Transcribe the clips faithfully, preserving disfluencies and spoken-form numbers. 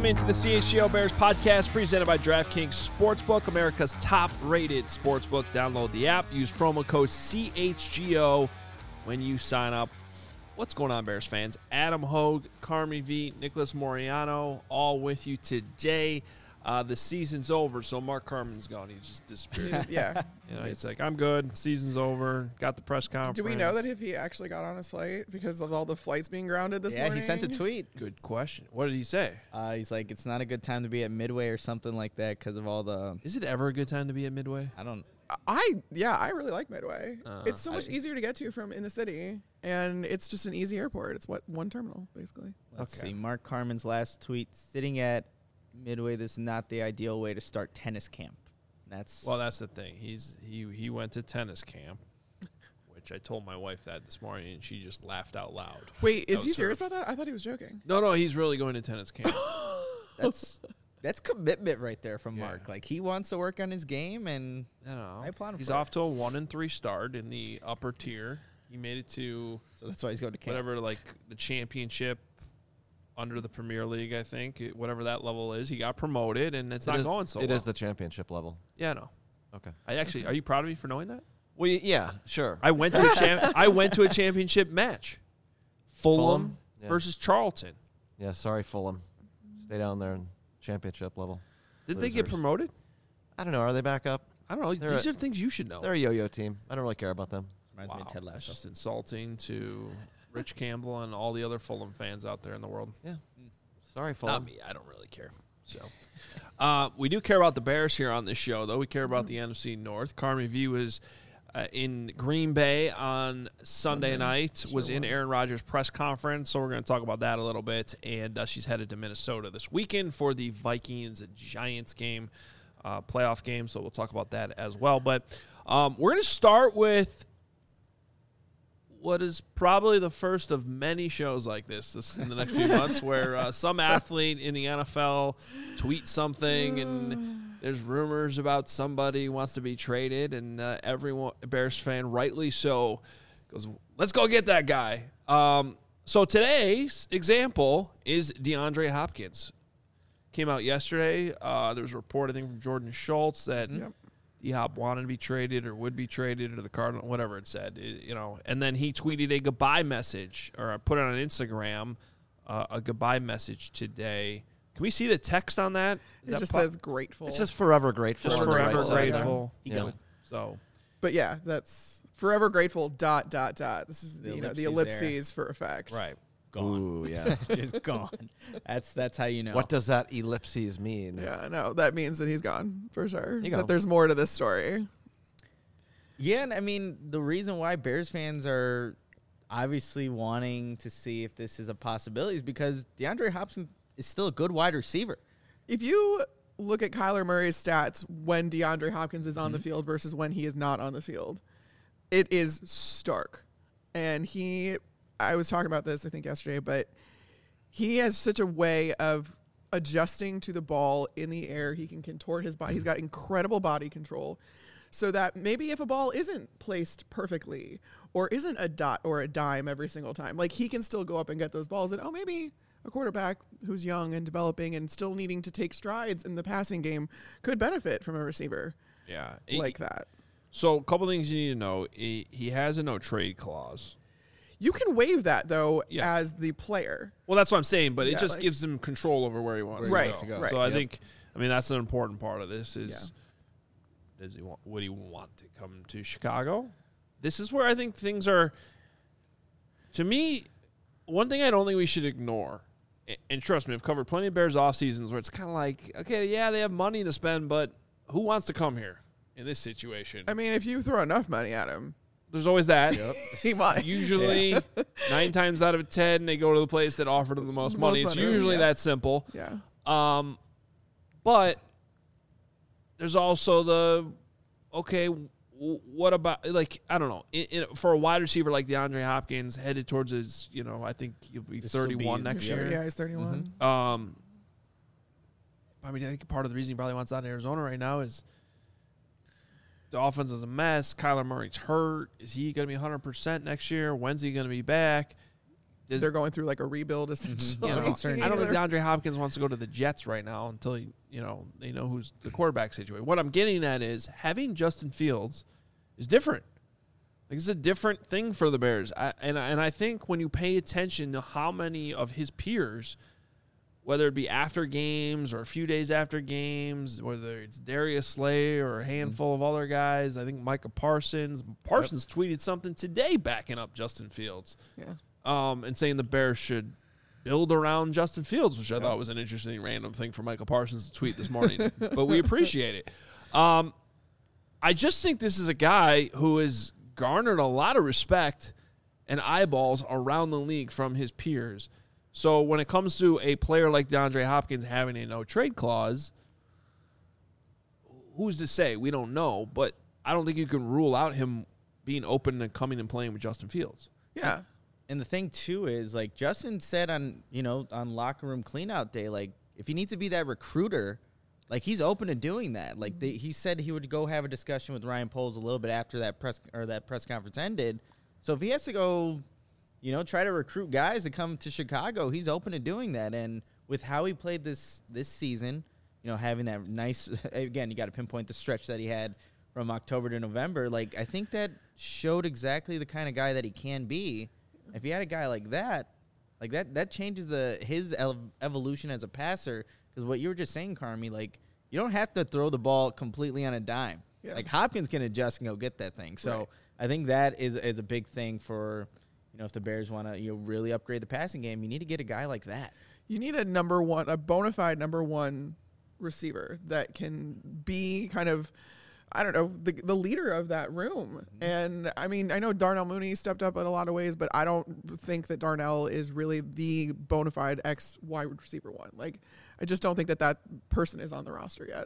Welcome into the C H G O Bears podcast presented by DraftKings Sportsbook, America's top-rated sportsbook. Download the app. Use promo code C H G O when you sign up. What's going on, Bears fans? Adam Hogue, Carmi V, Nicholas Moriano, all with you today. Uh, the season's over, so Mark Carmen's gone. He just disappeared. Yeah. You know, he's like, I'm good. Season's over. Got the press conference. Do we know that if he actually got on his flight because of all the flights being grounded this yeah, morning? he sent a tweet. Good question. What did he say? Uh, he's like, it's not a good time to be at Midway or something like that because of all the. Is it ever a good time to be at Midway? I don't. I yeah, I really like Midway. Uh, it's so much I- easier to get to from in the city, and it's just an easy airport. It's what one terminal basically. Let's Okay. see. Mark Carmen's last tweet: sitting at Midway. This is not the ideal way to start tennis camp. That's Well, that's the thing. He's he he went to tennis camp, which I told my wife that this morning, and she just laughed out loud. Wait, is That he was serious her- about that? I thought he was joking. No, no, he's really going to tennis camp. that's that's commitment right there from Yeah. Mark. Like he wants to work on his game, and I don't know. I applaud him He's for it. off to a one and three start in the upper tier. He made it to so that's why he's going to camp. whatever, like the championship under the Premier League, I think, it- whatever that level is. He got promoted, and it's It not is- going so It well. is the championship level. Yeah, no. Okay. I actually, are you proud of me for knowing that? Well, y- yeah, sure. I went to a champ- I went to a championship match. Fulham, Fulham? Yeah. versus Charlton. Yeah, sorry, Fulham. Stay down there in championship level. Did they get Losers. promoted? I don't know. Are they back up? I don't know. They're These a- are things you should know. They're a yo-yo team. I don't really care about them. Reminds me of Ted That's Lasso. just insulting to Rich Campbell and all the other Fulham fans out there in the world. Yeah. Sorry, Not Fulham. me. I don't really care. So, uh, we do care about the Bears here on this show, though. We care about the N F C North. Carmi V was uh, in Green Bay on Sunday, Sunday. night, Sure was in was. Aaron Rodgers' press conference, so we're going to talk about that a little bit. And uh, she's headed to Minnesota this weekend for the Vikings-Giants game, uh, playoff game, so we'll talk about that as well. But um, we're going to start with what is probably the first of many shows like this, this in the next few months, where uh, some athlete in the N F L tweets something and there's rumors about somebody who wants to be traded, and uh, everyone, Bears fan, rightly so, goes, let's go get that guy. Um, so today's example is DeAndre Hopkins. Came out yesterday. Uh, there was a report, I think, from Jordan Schultz that Yep. D-Hop wanted to be traded or would be traded or the Cardinal, whatever it said, it- you know. And then he tweeted a goodbye message, or put it on Instagram, uh, a goodbye message today. Can we see the text on that? Is It that just po- says grateful. It's just forever grateful. just on the right forever side there. grateful. He Yeah. gone. So but yeah, that's forever grateful. Dot dot dot. This is The the, you know the ellipses there. ellipses for effect. right. Gone. Ooh, yeah. Just gone. That's that's how you know. What does that ellipses mean? Yeah, no, that means that he's gone for sure. You go. That there's more to this story. Yeah, and I mean, the reason why Bears fans are obviously wanting to see if this is a possibility is because DeAndre Hopkins is still a good wide receiver. If you look at Kyler Murray's stats when DeAndre Hopkins is on the field versus when he is not on the field, it is stark. And he, I was talking about this, I think, yesterday, but he has such a way of adjusting to the ball in the air. He can contort his body. He's got incredible body control. So that maybe if a ball isn't placed perfectly or isn't a dot or a dime every single time, like he can still go up and get those balls. And, oh, maybe a quarterback who's young and developing and still needing to take strides in the passing game could benefit from a receiver Yeah. like that. So a couple things you need to know. He, he has a no trade clause. You can waive that, though, Yeah. as the player. Well, that's what I'm saying, but it Yeah, just like- gives him control over where he wants Right, to go. right. So I Yep. think, I mean, that's an important part of this is, does he want, would he want to come to Chicago? This is where I think things are, to me, one thing I don't think we should ignore, a- and trust me, I've covered plenty of Bears off seasons where it's kind of like, okay, yeah, they have money to spend, but who wants to come here in this situation? I mean, if you throw enough money at him, There's always that. he might. Usually, nine times out of ten, they go to the place that offered them the most, Most money. It's money, usually yeah. that simple. Yeah. Um, but there's also the okay. W- what about like I don't know in, in, for a wide receiver like DeAndre Hopkins headed towards his you know I think he'll be This will be thirty-one his next year. year. Yeah, he's thirty-one. Um, I mean I think part of the reason he probably wants out in Arizona right now is the offense is a mess. Kyler Murray's hurt. Is he going to be one hundred percent next year? When's he going to be back? Does- they're going through like a rebuild essentially. You know, concerned I don't think Either. DeAndre Hopkins wants to go to the Jets right now until he, you know they know who's the quarterback situation. What I'm getting at is having Justin Fields is different. Like it's a different thing for the Bears, I, and and I think when you pay attention to how many of his peers, whether it be after games or a few days after games, whether it's Darius Slay or a handful mm-hmm. of other guys, I think Micah Parsons. Parsons yep. tweeted something today backing up Justin Fields, yeah, um, and saying the Bears should build around Justin Fields, which I yep. thought was an interesting random thing for Michael Parsons to tweet this morning, but we appreciate it. Um, I just think this is a guy who has garnered a lot of respect and eyeballs around the league from his peers. So when it comes to a player like DeAndre Hopkins having a no-trade clause, who's to say? We don't know, but I don't think you can rule out him being open to coming and playing with Justin Fields. Yeah. And the thing, too, is, like, Justin said on, you know, on locker room cleanout day, like, if he needs to be that recruiter, like, he's open to doing that. Like, they, he said he would go have a discussion with Ryan Poles a little bit after that press or that press conference ended. So if he has to go, you know, try to recruit guys to come to Chicago, he's open to doing that. And with how he played this this season, you know, having that nice – again, you got to pinpoint the stretch that he had from October to November. Like, I think that showed exactly the kind of guy that he can be. If you had a guy like that, like that, that changes the his evolution as a passer. Because what you were just saying, Carmi, like, you don't have to throw the ball completely on a dime. Yeah. Like, Hopkins can adjust and go get that thing. So right. I think that is is a big thing for, you know, if the Bears want to, you know, really upgrade the passing game, you need to get a guy like that. You need a number one, a bona fide number one receiver that can be kind of, I don't know, the the leader of that room. Mm-hmm. And, I mean, I know Darnell Mooney stepped up in a lot of ways, but I don't think that Darnell is really the bona fide X wide receiver one. Like, I just don't think that that person is on the roster yet.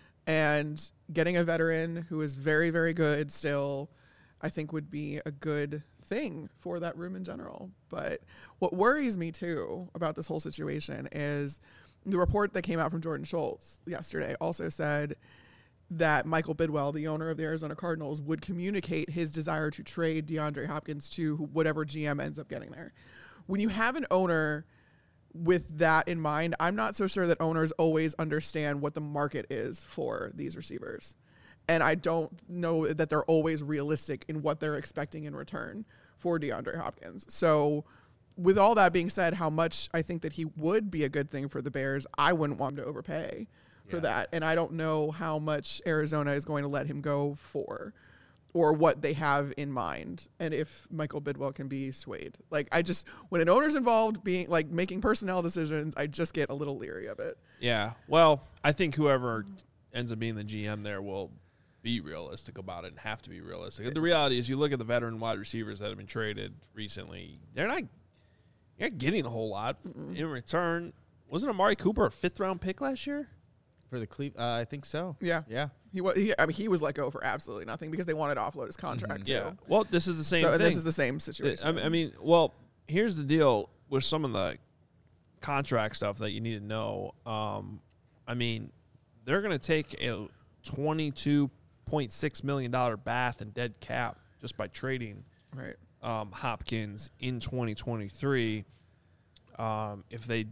And getting a veteran who is very, very good still, I think would be a good thing for that room in general. But what worries me, too, about this whole situation is the report that came out from Jordan Schultz yesterday also said that Michael Bidwell, the owner of the Arizona Cardinals, would communicate his desire to trade DeAndre Hopkins to whatever G M ends up getting there. When you have an owner with that in mind, I'm not so sure that owners always understand what the market is for these receivers. And I don't know that they're always realistic in what they're expecting in return for DeAndre Hopkins. So with all that being said, how much I think that he would be a good thing for the Bears, I wouldn't want him to overpay for yeah. that. And I don't know how much Arizona is going to let him go for or what they have in mind and if Michael Bidwell can be swayed. Like, I just, when an owner's involved being like making personnel decisions, I just get a little leery of it. Yeah. Well, I think whoever ends up being the G M there will be realistic about it and have to be realistic. The reality is you look at the veteran wide receivers that have been traded recently, they're not, you're not getting a whole lot Mm-mm. in return. Wasn't Amari Cooper a fifth round pick last year? For the Cle- uh, I think so. Yeah. Yeah. He was, he, I mean, he was let go for absolutely nothing because they wanted to offload his contract, mm-hmm. too. Yeah. Well, this is the same so thing. This is the same situation. I mean, well, here's the deal with some of the contract stuff that you need to know. Um, I mean, they're going to take a twenty-two point six million dollars bath in dead cap just by trading right. um, Hopkins in twenty twenty-three. Um, if they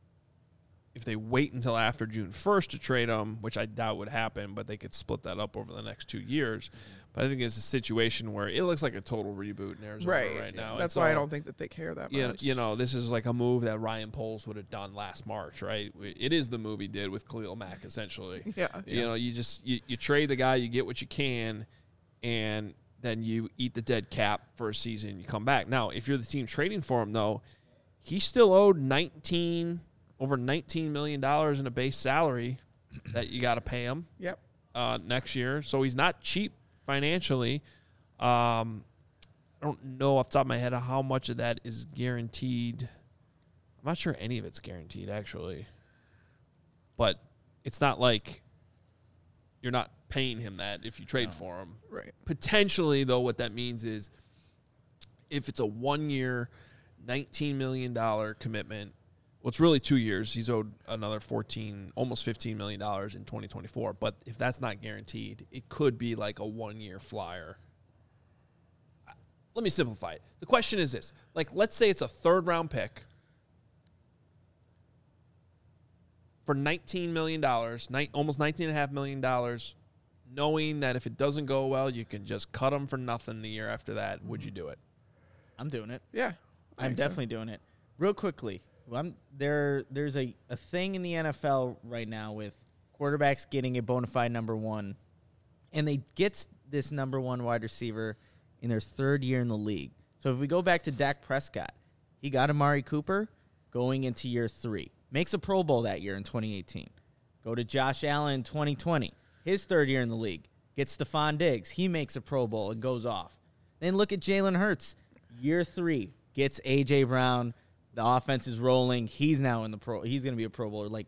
if they wait until after June first to trade him, which I doubt would happen, but they could split that up over the next two years. But I think it's a situation where it looks like a total reboot in Arizona right, right now. That's why all, I don't think that they care that you much. Know, you know, this is like a move that Ryan Poles would have done last March, right? It is the move he did with Khalil Mack, essentially. Yeah. You yeah. know, you just you, you trade the guy, you get what you can, and then you eat the dead cap for a season and you come back. Now, if you're the team trading for him, though, he still owed nineteen over nineteen million dollars in a base salary that you got to pay him yep. uh, next year. So he's not cheap financially. Um, I don't know off the top of my head how much of that is guaranteed. I'm not sure any of it's guaranteed, actually. But it's not like you're not paying him that if you trade no. for him. Right. Potentially, though, what that means is if it's a one-year, nineteen million dollars commitment, well, it's really two years. He's owed another fourteen, almost fifteen million dollars in twenty twenty-four. But if that's not guaranteed, it could be like a one-year flyer. let me simplify it. The question is this. Like, let's say it's a third-round pick for nineteen million dollars, ni- almost nineteen point five million dollars, knowing that if it doesn't go well, you can just cut them for nothing the year after that. Would you do it? I'm doing it. Yeah. I I'm think so. definitely doing it. Real quickly, I'm, there there's a, a thing in the N F L right now with quarterbacks getting a bona fide number one, and they get this number one wide receiver in their third year in the league. So if we go back to Dak Prescott, he got Amari Cooper going into year three. Makes a Pro Bowl that year in twenty eighteen. Go to Josh Allen in twenty twenty, his third year in the league. Gets Stephon Diggs. He makes a Pro Bowl and goes off. Then look at Jalen Hurts. Year three, gets A J. Brown. The offense is rolling. He's now in the pro. He's going to be a Pro Bowler. Like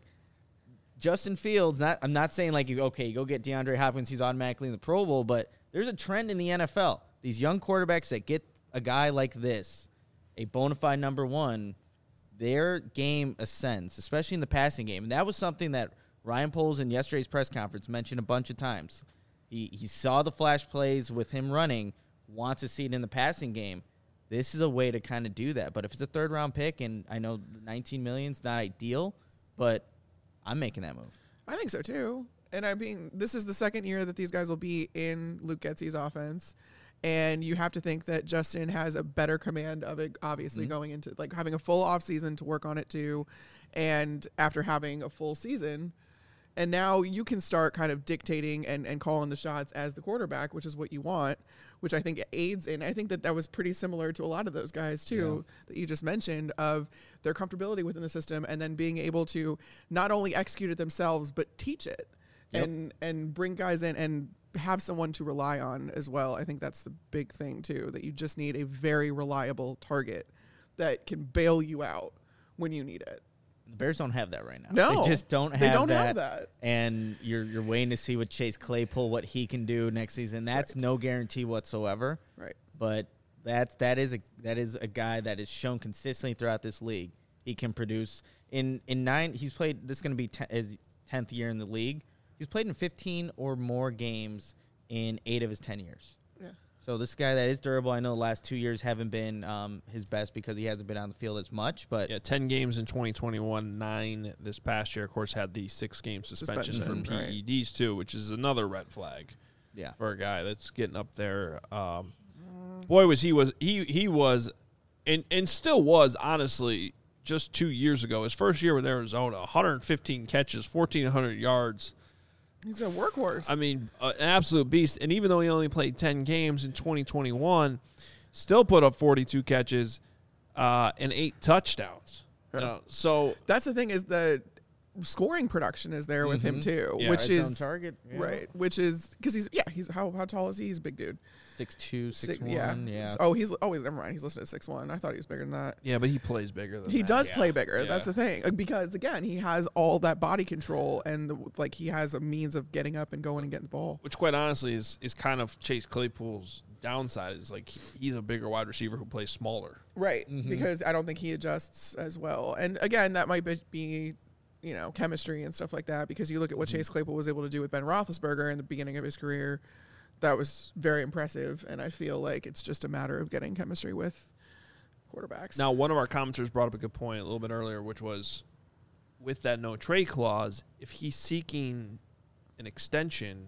Justin Fields. Not. I'm not saying like you okay. You go get DeAndre Hopkins. He's automatically in the Pro Bowl. But there's a trend in the N F L. These young quarterbacks that get a guy like this, a bona fide number one, their game ascends, especially in the passing game. And that was something that Ryan Poles in yesterday's press conference mentioned a bunch of times. He he saw the flash plays with him running, wants to see it in the passing game. This is a way to kind of do that. But if it's a third-round pick, and I know nineteen million dollars is not ideal, but I'm making that move. I think so, too. And I mean, this is the second year that these guys will be in Luke Getsy's offense. And you have to think that Justin has a better command of it, obviously, mm-hmm. going into, like, having a full offseason to work on it, too. And after having a full season, and now you can start kind of dictating and, and calling the shots as the quarterback, which is what you want, which I think aids in. I think that that was pretty similar to a lot of those guys, too, yeah. that you just mentioned, of their comfortability within the system and then being able to not only execute it themselves, but teach it yep. and, and bring guys in and have someone to rely on as well. I think that's the big thing, too, that you just need a very reliable target that can bail you out when you need it. The Bears don't have that right now. No, they just don't have they don't that. have that. And you're you're waiting to see what Chase Claypool, what he can do next season. That's right. No guarantee whatsoever. Right. But that's that is a that is a guy that is shown consistently throughout this league. He can produce in in nine. He's played. This is going to be ten, his tenth year in the league. He's played in fifteen or more games in eight of his ten years. Yeah. So this guy that is durable. I know the last two years haven't been um, his best because he hasn't been on the field as much. But yeah, ten games in twenty twenty-one, nine this past year. Of course, had the six-game suspension, suspension for P E Ds, right. too, which is another red flag yeah. for a guy that's getting up there. Um, boy, was he was he he was and, and still was, honestly, just two years ago. His first year with Arizona, one hundred fifteen catches, fourteen hundred yards. He's a workhorse. I mean, uh, an absolute beast. And even though he only played ten games in twenty twenty-one, still put up forty-two catches uh, and eight touchdowns. You know, so that's the thing, is the scoring production is there with mm-hmm. him too, yeah. which Red is zone target, yeah. right. Which is because he's yeah he's how how tall is he? He's a big dude. Six two, six, six one. Yeah. yeah. Oh, he's oh never mind. He's listed at six one. I thought he was bigger than that. yeah, but he plays bigger than He that. does Yeah. play bigger. Yeah. That's the thing. Uh, Because again, he has all that body control and the, like he has a means of getting up and going and getting the ball. Which, quite honestly, is is kind of Chase Claypool's downside. Is like he- he's a bigger wide receiver who plays smaller. Right. Mhm. Because I don't think he adjusts as well. And again, that might be, be you know, chemistry and stuff like that, because you look at what mm-hmm. Chase Claypool was able to do with Ben Roethlisberger in the beginning of his career. That was very impressive, and I feel like it's just a matter of getting chemistry with quarterbacks. Now, one of our commenters brought up a good point a little bit earlier, which was with that no trade clause, if he's seeking an extension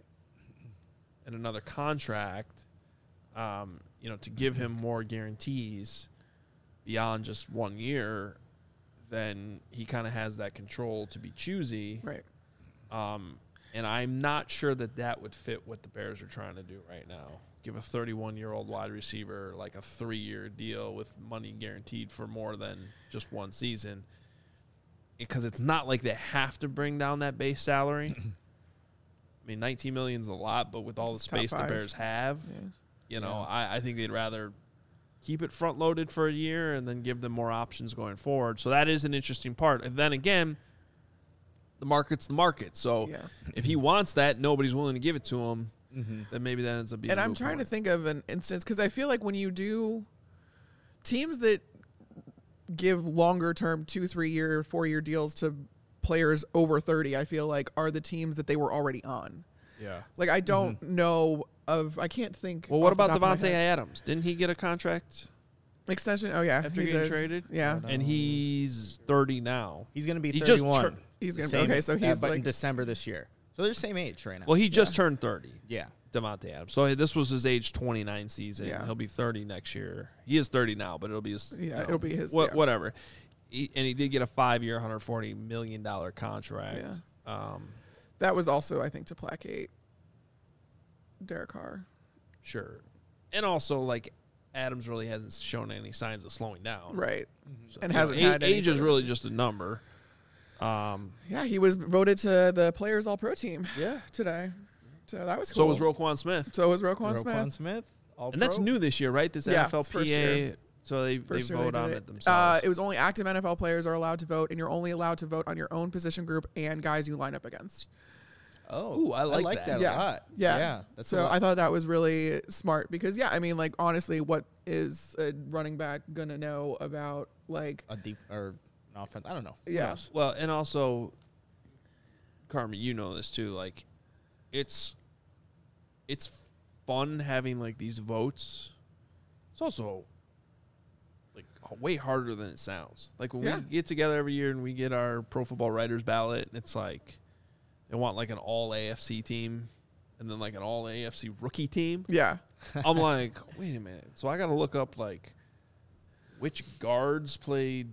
and another contract, um, you know, to give him more guarantees beyond just one year, then he kind of has that control to be choosy. Right. Um, and I'm not sure that that would fit what the Bears are trying to do right now. Give a thirty-one-year-old wide receiver like a three-year deal with money guaranteed for more than just one season, because it's not like they have to bring down that base salary. I mean, nineteen million dollars is a lot, but with all It's the space the top five. Bears have, Yeah. you know, Yeah. I, I think they'd rather keep it front-loaded for a year and then give them more options going forward. So that is an interesting part. And then again, the market's the market. So Yeah. if he wants that, nobody's willing to give it to him, Mm-hmm. then maybe that ends up being And a I'm moot trying to point. think of an instance, because I feel like when you do teams that give longer term two, three year, four year deals to players over thirty, I feel like are the teams that they were already on. Yeah. Like I don't Mm-hmm. know of I can't think. Well, what off the about top of my Devontae head. Adams? Didn't he get a contract Extension? Oh yeah, after he getting did. traded? Yeah, And he's thirty now. He's gonna be He just thirty-one. tur- he's gonna be Same- okay. So uh, he's but in like December this year. So they're the same age right now. Well, he just Yeah. turned thirty. yeah. Devontae Adams. So this was his age twenty-nine season. Yeah. He'll be thirty next year. He is thirty now, but it'll be his. Yeah, you know, it'll be his- What, yeah. Whatever. He, and he did get a five-year, one hundred forty million dollars contract. Yeah. Um, that was also I think to placate Derek Carr. sure. And also, like, Adams really hasn't shown any signs of slowing down. Right. So, And you know, hasn't a- had any age sort is of- really just a number. Um, Yeah, he was voted to the Players All Pro team yeah. today. So that was So cool. was Roquan Smith. So was Roquan Roquan Smith. Smith. All And that's pro? new this year, right? This Yeah, N F L it's first P A. year. So they, First they year vote did on it. it themselves. Uh, it was only active N F L players are allowed to vote, and you're only allowed to vote on your own position group and guys you line up against. Oh, Ooh, I like that. that, Yeah. a lot. Yeah. yeah that's a so lot. I thought that was really smart because, yeah, I mean, like, honestly, what is a running back going to know about, like, a deep or an offense. I don't know. Who yeah. knows? Well, and also, Carmen, you know this too. Like, it's it's fun having like these votes. It's also like way harder than it sounds. Like when Yeah. we get together every year and we get our Pro Football Writers ballot, and it's like they want like an all A F C team and then like an all A F C rookie team. Yeah. I'm like, wait a minute. So I got to look up like which guards played,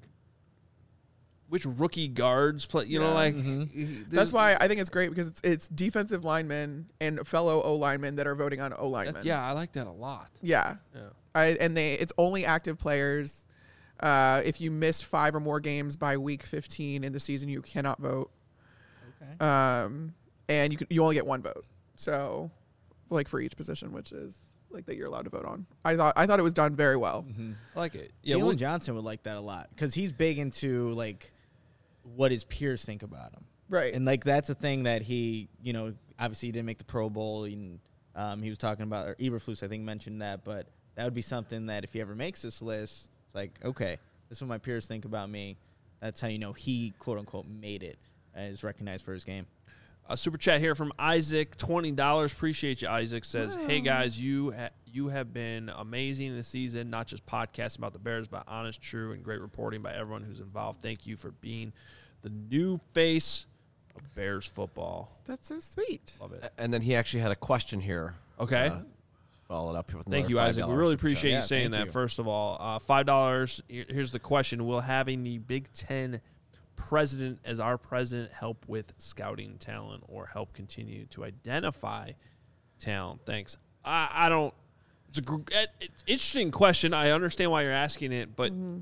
which rookie guards play. You know, Yeah. like Mhm. That's why I think it's great because it's, it's defensive linemen and fellow O linemen that are voting on O linemen. That, yeah, I like that a lot. Yeah. Yeah. I, and they it's only active players. Uh, if you missed five or more games by week fifteen in the season, you cannot vote. Okay. Um, and you can, you only get one vote. So, like for each position, which is like that you're allowed to vote on. I thought I thought it was done very well. Mm-hmm. I like it. Yeah, Jalen well, Johnson would like that a lot because he's big into like what his peers think about him, Right. and like that's a thing that he, you know, obviously he didn't make the Pro Bowl, and um, he was talking about or Eberflus, I think, mentioned that, but that would be something that if he ever makes this list, it's like, okay, this is what my peers think about me. That's how you know he quote unquote made it and is recognized for his game. a super chat here from Isaac, twenty dollars. Appreciate you, Isaac. Says, hey, guys, you ha- you have been amazing this season, not just podcasting about the Bears, but honest, true, and great reporting by everyone who's involved. Thank you for being the new face of Bears football. That's so sweet. Love it. And then he actually had a question here. Okay. Uh, followed up here with Thank another you, five Isaac. We dollars really super chat. appreciate Yeah, you saying thank that, you. first of all. Uh, five dollars. Here- Here's the question. Will having the Big Ten president as our president help with scouting talent or help continue to identify talent? Thanks. I, I don't. It's a gr- it- it's interesting question. I understand why you're asking it, but Mm-hmm.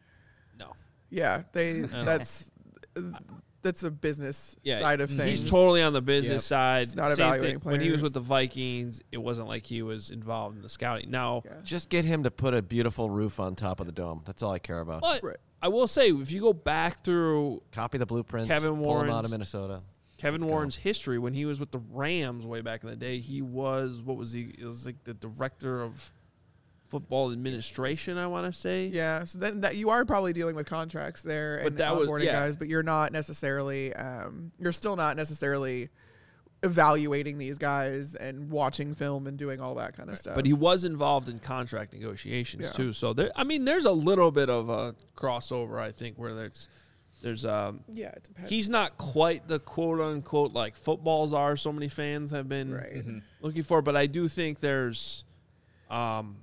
no. Yeah, they know. that's that's a business Yeah, side of things. he's totally on the business Yep. side. He's not Same evaluating thing. When he was players. with the Vikings, it wasn't like he was involved in the scouting. Now, Yeah. Just get him to put a beautiful roof on top of the dome. That's all I care about. but Right. I will say, if you go back through Copy the blueprints. Kevin pull them out Warren's- of Minnesota. Kevin Let's go. Warren's history, when he was with the Rams way back in the day, he was, what was he? It was like the director of football administration, I want to say. Yeah, so then that you are probably dealing with contracts there But and that was- onboarding yeah. guys, but you're not necessarily um, you're still not necessarily evaluating these guys and watching film and doing all that kind of stuff. But he was involved in contract negotiations Yeah. too. So there, I mean, there's a little bit of a crossover, I think, where there's, there's um, yeah, it depends. he's not quite the quote unquote like footballs are. So many fans have been right. looking for, but I do think there's, um,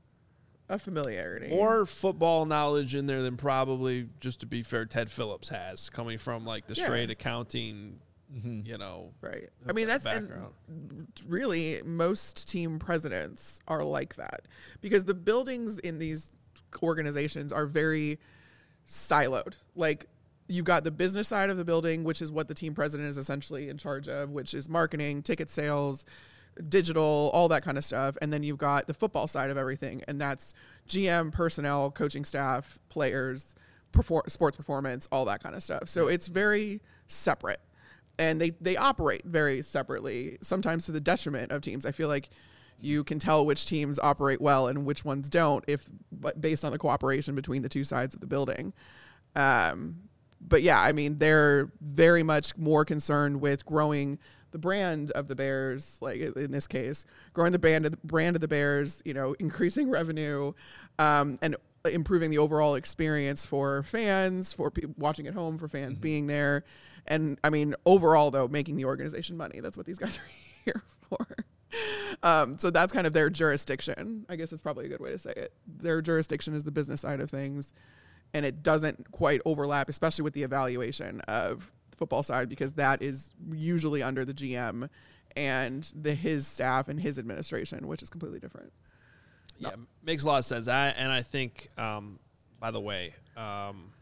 A familiarity. more football knowledge in there than probably, just to be fair, Ted Phillips has, coming from like the Yeah. straight accounting, Mm-hmm. you know. Right. I mean, that's and background. really most team presidents are like that because the buildings in these organizations are very siloed. Like you've got the business side of the building, which is what the team president is essentially in charge of, which is marketing, ticket sales, digital, all that kind of stuff. And then you've got the football side of everything. And that's G M, personnel, coaching staff, players, perfor- sports performance, all that kind of stuff. So it's very separate. And they, they operate very separately, sometimes to the detriment of teams. I feel like you can tell which teams operate well and which ones don't, if but based on the cooperation between the two sides of the building. Um, but yeah, I mean, they're very much more concerned with growing the brand of the Bears, like in this case, growing the brand of the, brand of the Bears, you know, increasing revenue, um, and improving the overall experience for fans, for pe- watching at home, for fans mm-hmm. being there. And I mean, overall though, making the organization money. That's what these guys are here for. Um, so that's kind of their jurisdiction. I guess is probably a good way to say it. Their jurisdiction is the business side of things. And it doesn't quite overlap, especially with the evaluation of the football side, because that is usually under the G M and the his staff and his administration, which is completely different. Yeah, no. Makes a lot of sense. I, and I think, um, by the way, um,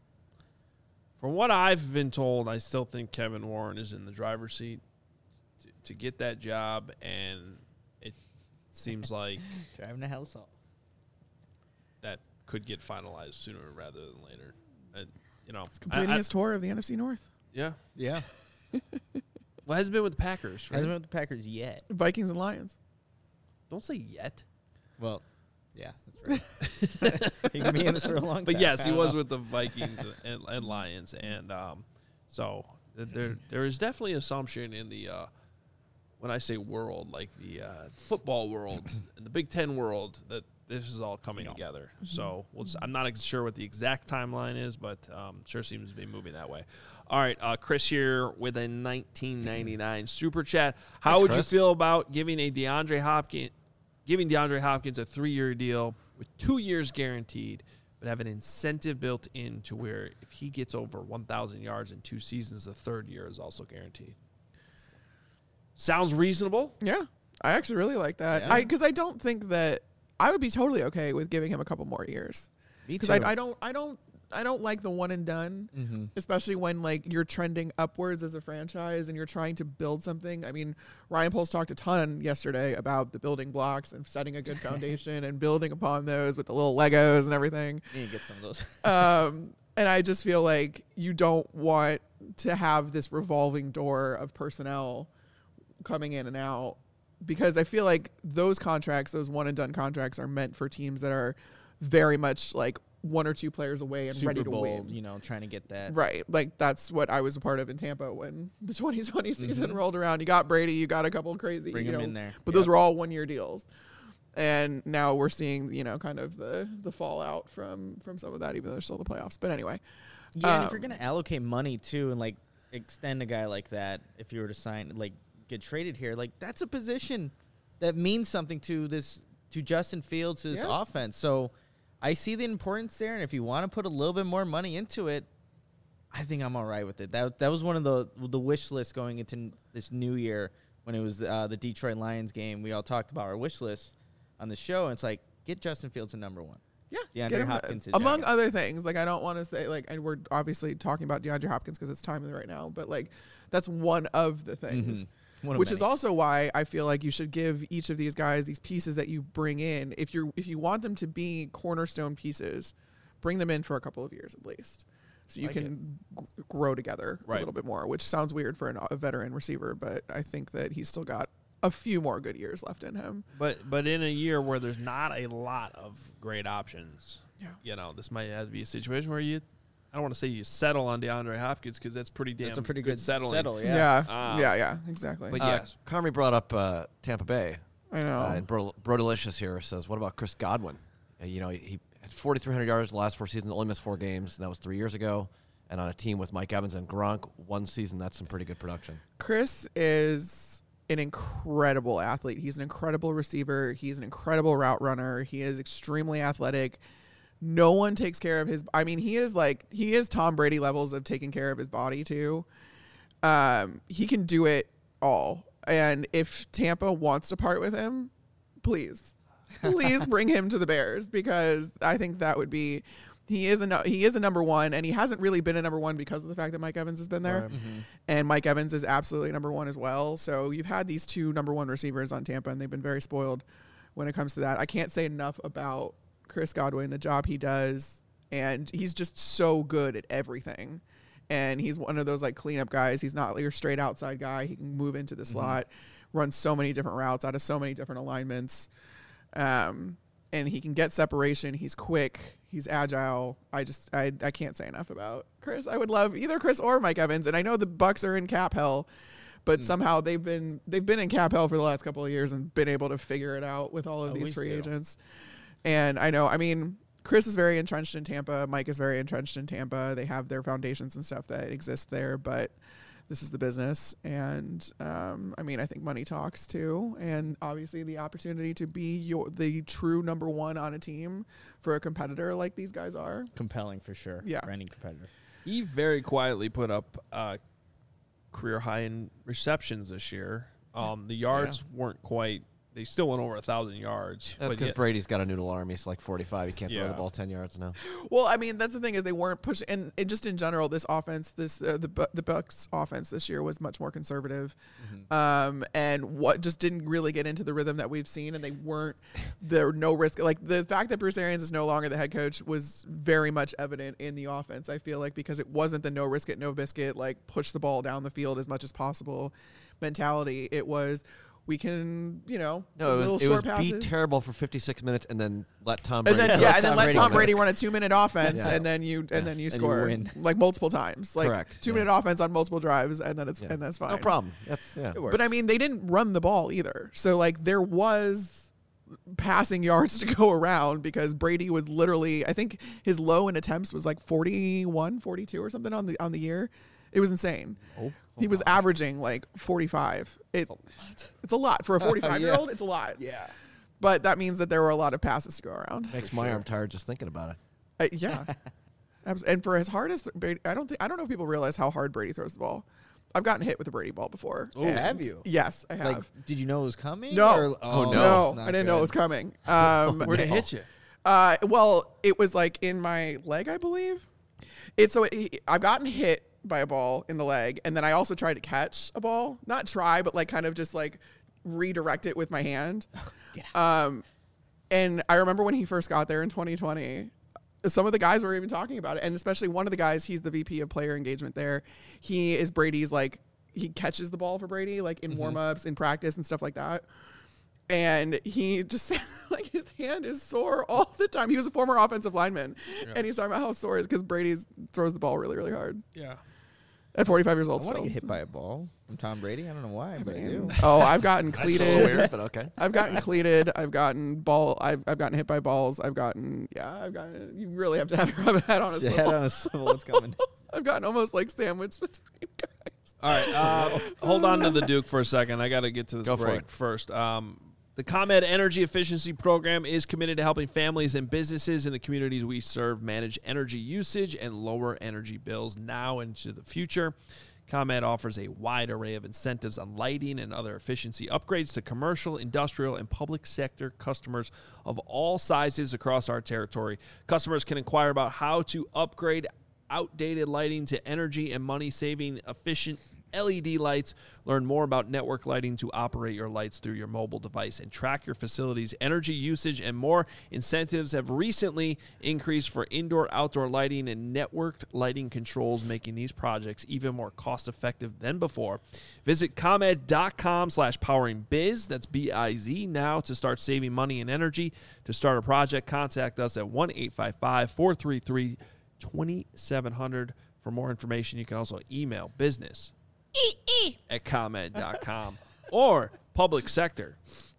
from what I've been told, I still think Kevin Warren is in the driver's seat to, to get that job, and it seems like driving a house off. That could get finalized sooner rather than later. And, you know, He's completing I, I, his tour of the N F C North. Yeah. Yeah. Well, hasn't been with the Packers, right? Hasn't been with the Packers yet. Vikings and Lions. Don't say yet. Well, yeah, that's right. He can be in this for a long time. But yes, he was know. with the Vikings and, and Lions, and um, so there there is definitely assumption in the uh, when I say world, like the uh, football world and the Big Ten world, that this is all coming yeah. together. Mm-hmm. So we'll just, I'm not ex- sure what the exact timeline is, but um, sure seems to be moving that way. All right, uh, Chris here with a nineteen ninety-nine super chat. How Thanks, would Chris. you feel about giving a DeAndre Hopkins? Giving DeAndre Hopkins a three-year deal with two years guaranteed, but have an incentive built in to where if he gets over one thousand yards in two seasons, the third year is also guaranteed. Sounds reasonable. Yeah, I actually really like that. Yeah. I because I don't think that I would be totally okay with giving him a couple more years. Me Because too. I, I don't, I don't, I don't like the one and done, mm-hmm. especially when like you're trending upwards as a franchise and you're trying to build something. I mean, Ryan Poles talked a ton yesterday about the building blocks and setting a good foundation and building upon those with the little Legos and everything. Need to get some of those. um, and I just feel like you don't want to have this revolving door of personnel coming in and out, because I feel like those contracts, those one and done contracts, are meant for teams that are very much like one or two players away and Super ready to Bowl, win. You know, trying to get that. Right. Like that's what I was a part of in Tampa when the twenty twenty season Mm-hmm. rolled around. You got Brady, you got a couple crazy, Bring you him know, in there. but Yep. those were all one year deals. And now we're seeing, you know, kind of the the fallout from from some of that, even though there's still the playoffs. But anyway. Yeah, and if you're Um, going to allocate money too and like extend a guy like that, if you were to sign, like get traded here, like that's a position that means something to this, to Justin Fields, to this Yes. offense. So I see the importance there, and if you want to put a little bit more money into it, I think I'm all right with it. That that was one of the the wish lists going into n- this new year when it was uh, the Detroit Lions game. We all talked about our wish list on the show, and it's like, get Justin Fields to number one. Yeah, DeAndre get him, Hopkins is among Jackets. other things. Like I don't want to say like, and we're obviously talking about DeAndre Hopkins because it's timely right now, but like that's one of the things. Mhm. One of Which is many. also why I feel like you should give each of these guys these pieces that you bring in. If you're if you want them to be cornerstone pieces, bring them in for a couple of years at least, so you Like can g- grow together Right. a little bit more. Which sounds weird for an, a veteran receiver, but I think that he's still got a few more good years left in him. But but in a year where there's not a lot of great options, Yeah. you know, this might have to be a situation where you, I don't want to say you settle on DeAndre Hopkins because that's pretty damn That's a pretty good, settling. settle. Yeah, Yeah. Um, yeah, yeah, exactly. But Uh, yes, Carmi brought up uh, Tampa Bay. I know. Uh, and Bro, Bro Delicious here says, what about Chris Godwin? Uh, you know, he, he had forty-three hundred yards the last four seasons, only missed four games, and that was three years ago. And on a team with Mike Evans and Gronk, one season, that's some pretty good production. Chris is an incredible athlete. He's an incredible receiver. He's an incredible route runner. He is extremely athletic. No one takes care of his. I mean, he is like he is Tom Brady levels of taking care of his body too. Um, he can do it all. And if Tampa wants to part with him, please, please bring him to the Bears, because I think that would be. He is a no- he is a number one, and he hasn't really been a number one because of the fact that Mike Evans has been there. Right. Mm-hmm. And Mike Evans is absolutely number one as well. So you've had these two number one receivers on Tampa, and they've been very spoiled when it comes to that. I can't say enough about Chris Godwin, the job he does, and he's just so good at everything. And he's one of those like cleanup guys. He's not your straight outside guy. He can move into the Mm-hmm. slot, run so many different routes out of so many different alignments. Um, and he can get separation. He's quick. He's agile. I just I I can't say enough about Chris. I would love either Chris or Mike Evans. And I know the Bucks are in cap hell, but Mm. somehow they've been they've been in cap hell for the last couple of years and been able to figure it out with all of these Always free do. agents. And I know, I mean, Chris is very entrenched in Tampa. Mike is very entrenched in Tampa. They have their foundations and stuff that exist there, but this is the business. And um, I mean, I think money talks too. And obviously the opportunity to be your the true number one on a team for a competitor like these guys are. Compelling for sure. Yeah. For any competitor. He very quietly put up uh, career high in receptions this year. Um, the yards weren't quite. They still went over a thousand yards. That's but because yet- Brady's got a noodle arm. He's like forty-five. He can't throw Yeah. the ball ten yards now. Well, I mean, that's the thing is they weren't pushing, and it just in general, this offense, this uh, the Bu- the Bucks offense this year was much more conservative, um, and what just didn't really get into the rhythm that we've seen, and they weren't there were no risk. Like the fact that Bruce Arians is no longer the head coach was very much evident in the offense. I feel like because it wasn't the no risk it, no biscuit, like push the ball down the field as much as possible mentality. It was. We can, you know, No, it little was, it was short be passes. terrible for fifty-six minutes and then let Tom And Brady. then Yeah, yeah, let and then Tom let Brady Tom go. Brady run a two minute offense, Yeah. and then you and Yeah. then you And you score win. like multiple times, like Correct. two Yeah. minute offense on multiple drives, and then it's Yeah. and that's fine. No problem. That's yeah. It works. But I mean, they didn't run the ball either, so like there was passing yards to go around because Brady was literally, I think his low in attempts was like forty-one, forty-two or something on the on the year. It was insane. Oh, He was averaging like forty-five. It, it's a lot for a forty-five year old. It's a lot. yeah. But that means that there were a lot of passes to go around. Makes For my sure. arm tired just thinking about it. Uh, yeah. Abs- and for as hard as Brady, I don't think I don't know if people realize how hard Brady throws the ball. I've gotten hit with a Brady ball before. Oh, and- have you? Yes, I have. Like, did you know it was coming? No. Or- Oh, no. no, it's not I didn't know it good. was coming. Um, Where'd it hit you? Uh, well, it was like in my leg, I believe. It's so it, I've gotten hit by a ball in the leg, and then I also tried to catch a ball. Not try, but like kind of just like redirect it with my hand. Get Um, and I remember when he first got there in twenty twenty. Some of the guys were even talking about it, and especially one of the guys, he's the V P of player engagement there. He is Brady's like he catches the ball for Brady like in warm-ups, in practice and stuff like that. And he just like his hand is sore all the time. He was a former offensive lineman, and he's talking about how sore it is because Brady throws the ball really, really hard Yeah. at forty-five years I old. want to Still, get hit by a ball from Tom Brady. I don't know why, but I do. Oh, I've gotten That's a little cleated. weird, but okay. I've gotten cleated. I've gotten ball. I've, I've gotten hit by balls. I've gotten yeah. I've gotten. You really have to have your head on a Head swivel. on a swivel. It's coming. I've gotten almost like sandwiched between guys. All right. Uh, hold on to the Duke for a second. I got to get to this Go for break it. first. Um, the ComEd Energy Efficiency Program is committed to helping families and businesses in the communities we serve manage energy usage and lower energy bills now and into the future. ComEd offers a wide array of incentives on lighting and other efficiency upgrades to commercial, industrial, and public sector customers of all sizes across our territory. Customers can inquire about how to upgrade outdated lighting to energy and money-saving efficient L E D lights. Learn more about network lighting to operate your lights through your mobile device and track your facility's energy usage and more. Incentives have recently increased for indoor, outdoor lighting and networked lighting controls, making these projects even more cost-effective than before. Visit ComEd.com slash powering biz. That's B I Z now to start saving money and energy. To start a project, contact us at one eight five five, four three three, two seven zero zero. For more information, you can also email business at ComEd dot com or public sector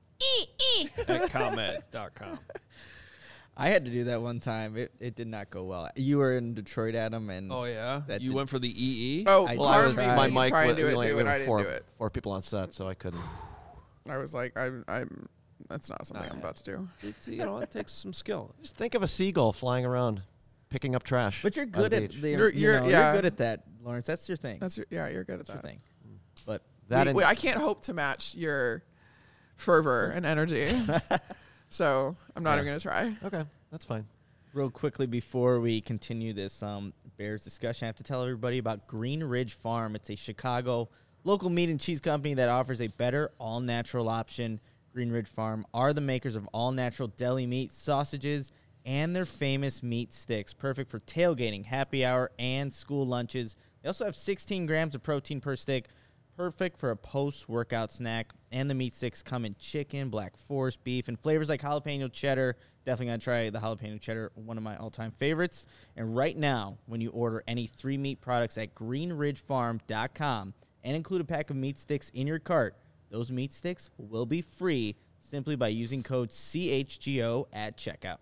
at ComEd dot com. I had to do that one time. It it did not go well. You were in Detroit, Adam, and Oh, yeah? That You did- went for the E E? Oh, I Well, I part was of me my did mic. try and was- do we it only- too, we and were I didn't four, do it. four people on set, so I couldn't. I was like, I'm, I'm. That's not something I'm about to do. It's, you know, it takes some skill. Just think of a seagull flying around, picking up trash. but you're on good the at beach. the You're- you you're- know, yeah. you're good at that, Lawrence. That's your thing. That's your, yeah, you're good at That's your that. thing. But that. We- and- we- I can't hope to match your fervor and energy, so I'm not Yeah. even gonna try. okay, that's fine. real quickly before we continue this um, Bears discussion, I have to tell everybody about Green Ridge Farm. It's a Chicago local meat and cheese company that offers a better all-natural option. Green Ridge Farm are the makers of all-natural deli meat, sausages, and their famous meat sticks, perfect for tailgating, happy hour, and school lunches. They also have sixteen grams of protein per stick, perfect for a post-workout snack. And the meat sticks come in chicken, black forest beef, and flavors like jalapeno cheddar. Definitely going to try the jalapeno cheddar, one of my all-time favorites. And right now, when you order any three meat products at green ridge farm dot com and include a pack of meat sticks in your cart. Those meat sticks will be free simply by using code C H G O at checkout.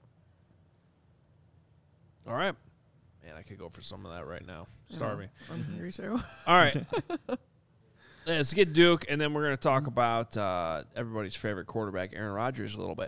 All right. Man, I could go for some of that right now. Starving. I'm hungry too. All right. Let's get Duke, and then we're going to talk about uh, everybody's favorite quarterback, Aaron Rodgers, a little bit.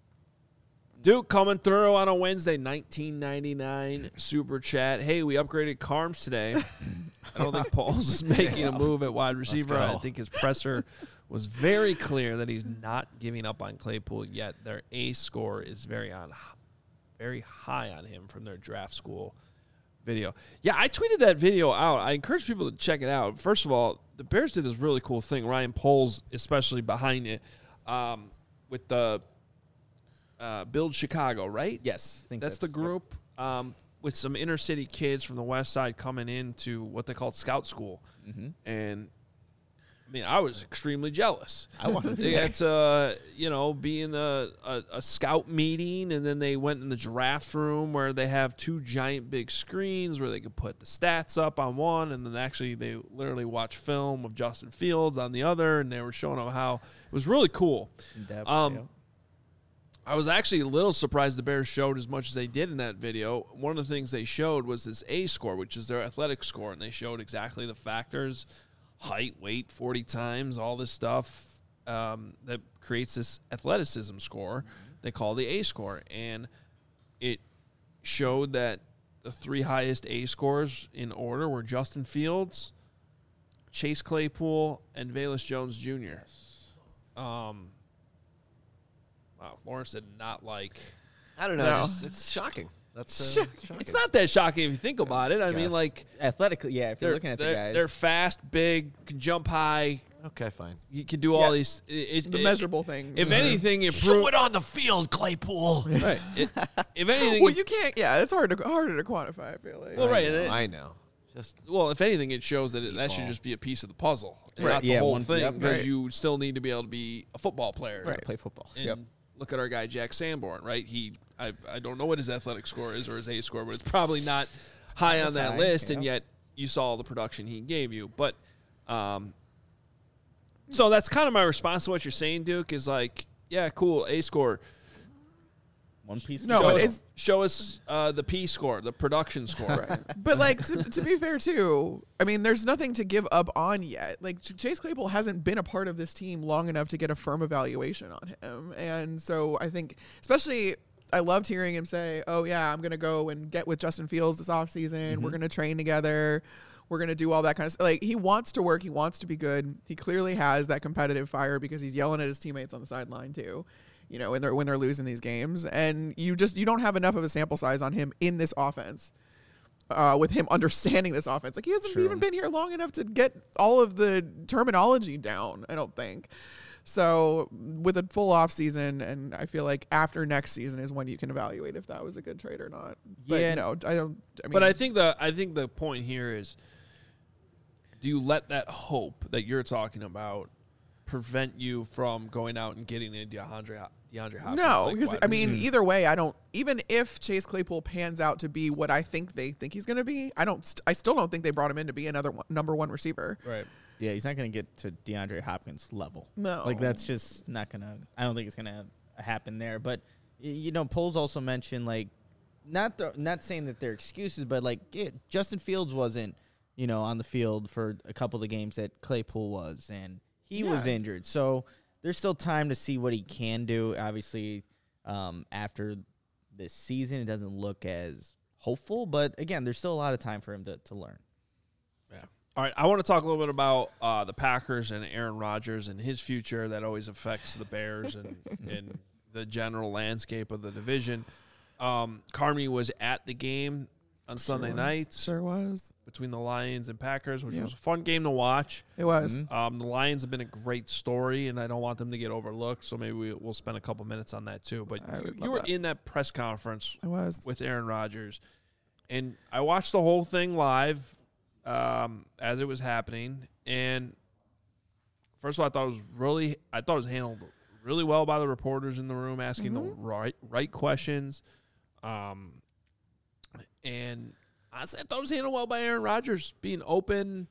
Duke coming through on a Wednesday, nineteen ninety-nine super chat. Hey, we upgraded Carms today. I don't think Pauls is making a move at wide receiver. I think his presser was very clear that he's not giving up on Claypool yet. Their A score is very on, very high on him from their draft school video. Yeah, I tweeted that video out. I encourage people to check it out. First of all, the Bears did this really cool thing. Ryan Poles, especially behind it, um, with the uh, Build Chicago, right? Yes. I think That's, that's the group um, with some inner city kids from the west side coming into what they call scout school. Mm-hmm. And, I mean, I was extremely jealous. I wanted to They got to, uh, you know, be in a, a, a scout meeting, and then they went in the draft room where they have two giant big screens where they could put the stats up on one, and then actually they literally watch film of Justin Fields on the other, and they were showing them how it was really cool. Depth, Um, yeah. I was actually a little surprised the Bears showed as much as they did in that video. One of the things they showed was this A score, which is their athletic score, and they showed exactly the factors: height, weight, forty times, all this stuff um, that creates this athleticism score they call the A score. And it showed that the three highest A scores in order were Justin Fields, Chase Claypool, and Velus Jones Junior Um, wow, Lawrence did not like. I don't know. No. It's, it's shocking. That's uh, shocking. It's not that shocking if you think about it. I mean, Guess. like, Athletically, yeah, if you're they're, looking at the they're, guys. they're fast, big, can jump high. Okay, fine. You can do all Yeah. these. It, it, The it- measurable things. If are- anything, it Show proves. it on the field, Claypool. Right. It, if anything, Well, you can't. Yeah, it's hard to harder to quantify. I feel like. Well, right, I and know. it- I know. Just well, if anything, it shows that it, that should Ball. just be a piece of the puzzle, and Right. not the Yeah, whole one- thing, yep. because Right. you still need to be able to be a football player. Right. play football. And Yep. look at our guy Jack Sanborn, right? He, I, I don't know what his athletic score is or his A score, but it's probably not high on That's that high, list, yeah. and yet you saw all the production he gave you. But, um, so that's kind of my response to what you're saying, Duke. Is like, yeah, cool, A score. One piece. of No, show but us, it's- show us uh, the P score, the production score. Right. But like to, to be fair too, I mean, there's nothing to give up on yet. Like Ch- Chase Claypool hasn't been a part of this team long enough to get a firm evaluation on him, and so I think, especially, I loved hearing him say, "Oh yeah, I'm gonna go and get with Justin Fields this offseason. Mm-hmm. We're gonna train together. We're gonna do all that kind of stuff." Like he wants to work. He wants to be good. He clearly has that competitive fire because he's yelling at his teammates on the sideline too. You know, when they're when they're losing these games, and you just you don't have enough of a sample size on him in this offense. Uh, with him understanding this offense, like he hasn't True. even been here long enough to get all of the terminology down. I don't think. So with a full off season, and I feel like after next season is when you can evaluate if that was a good trade or not. But Yeah. no, I don't. I mean, But I think the I think the point here is, do you let that hope that you're talking about prevent you from going out and getting a DeAndre DeAndre Hopkins? no, like because wide I mean, receiver? either way, I don't. Even if Chase Claypool pans out to be what I think they think he's going to be, I don't. St- I still don't think they brought him in to be another one, number one receiver. right. Yeah, he's not going to get to DeAndre Hopkins level. No. Like, that's just not going to – I don't think it's going to happen there. But, y- you know, Poles also mentioned, like, not the, not saying that they're excuses, but, like, yeah, Justin Fields wasn't, you know, on the field for a couple of the games that Claypool was, and he was Yeah. injured. So there's still time to see what he can do. Obviously, um, after this season, it doesn't look as hopeful. But, again, there's still a lot of time for him to, to learn. Yeah. All right. I want to talk a little bit about uh, the Packers and Aaron Rodgers and his future. That always affects the Bears and, and the general landscape of the division. Um, Carmi was at the game on Sunday was. night Sure was. between the Lions and Packers, which Yep. was a fun game to watch. It was. Mhm. Um, the Lions have been a great story, and I don't want them to get overlooked. So maybe we, we'll spend a couple minutes on that too. But I you, would you love were that. in that press conference I was. with Aaron Rodgers, and I watched the whole thing live um, as it was happening. And first of all, I thought it was really, I thought it was handled really well by the reporters in the room, asking the right right questions. Um, and honestly, I thought it was handled well by Aaron Rodgers, being open,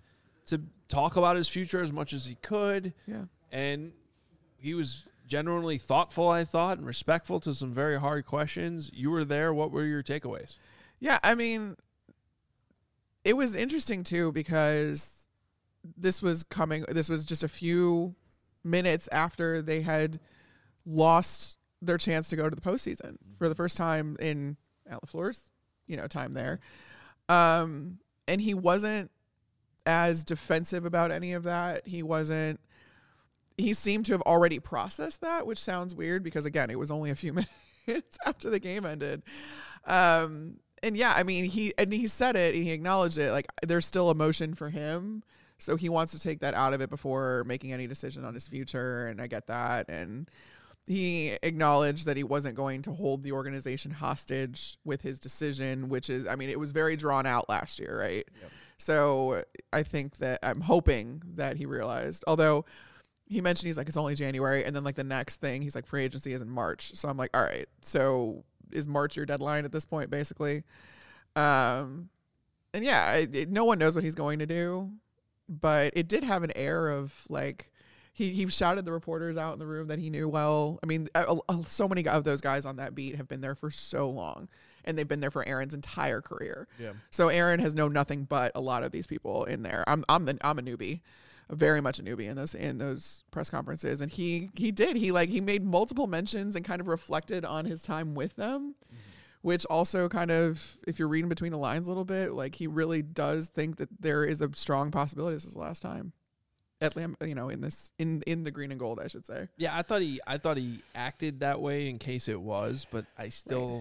to talk about his future as much as he could. Yeah. And he was genuinely thoughtful, I thought, and respectful to some very hard questions. You were there. What were your takeaways? Yeah, I mean, it was interesting too because this was coming. This was just a few minutes after they had lost their chance to go to the postseason for the first time in Al LaFleur's, you know, time there. Um, and he wasn't as defensive about any of that. He wasn't. He seemed to have already processed that, which sounds weird because, again, it was only a few minutes after the game ended. Um, and, yeah, I mean, he and he said it and he acknowledged it. Like, there's still emotion for him. So he wants to take that out of it before making any decision on his future. And I get that. And he acknowledged that he wasn't going to hold the organization hostage with his decision, which is, I mean, it was very drawn out last year, right? Yep. So I think that I'm hoping that he realized, although he mentioned he's like, it's only January. And then like the next thing, he's like, free agency is in March. So I'm like, all right, so is March your deadline at this point, basically? Um, and yeah, it, it, no one knows what he's going to do, but it did have an air of like, he, he shouted the reporters out in the room that he knew well. I mean, uh, uh, so many of those guys on that beat have been there for so long, and they've been there for Aaron's entire career. Yeah. So Aaron has known nothing but a lot of these people in there. I'm I'm the I'm a newbie, very much a newbie in those in those press conferences, and he he did he like he made multiple mentions and kind of reflected on his time with them, mm-hmm. which also kind of, if you're reading between the lines a little bit, like he really does think that there is a strong possibility this is the last time at Lam, you know, in this in in the green and gold, I should say. Yeah, I thought he I thought he acted that way in case it was, but I still.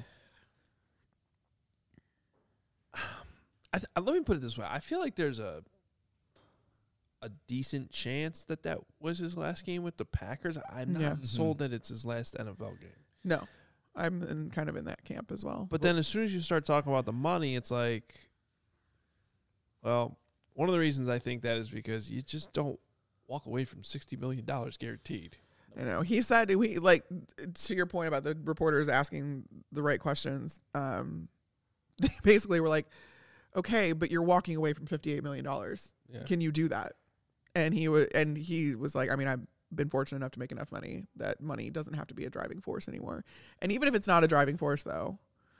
Right. I th- let me put it this way: I feel like there's a a decent chance that that was his last game with the Packers. I'm not Yeah. sold that it's his last N F L game. No, I'm in, kind of in that camp as well. But then as soon as you start talking about the money, it's like, well, one of the reasons I think that is because you just don't walk away from sixty million dollars guaranteed. You know, he said we like to your point about the reporters asking the right questions. Um, they basically were like, "Okay, but you're walking away from fifty-eight million dollars. Yeah. Can you do that?" And he was, and he was like, "I mean, I've been fortunate enough to make enough money that money doesn't have to be a driving force anymore. And even if it's not a driving force, though,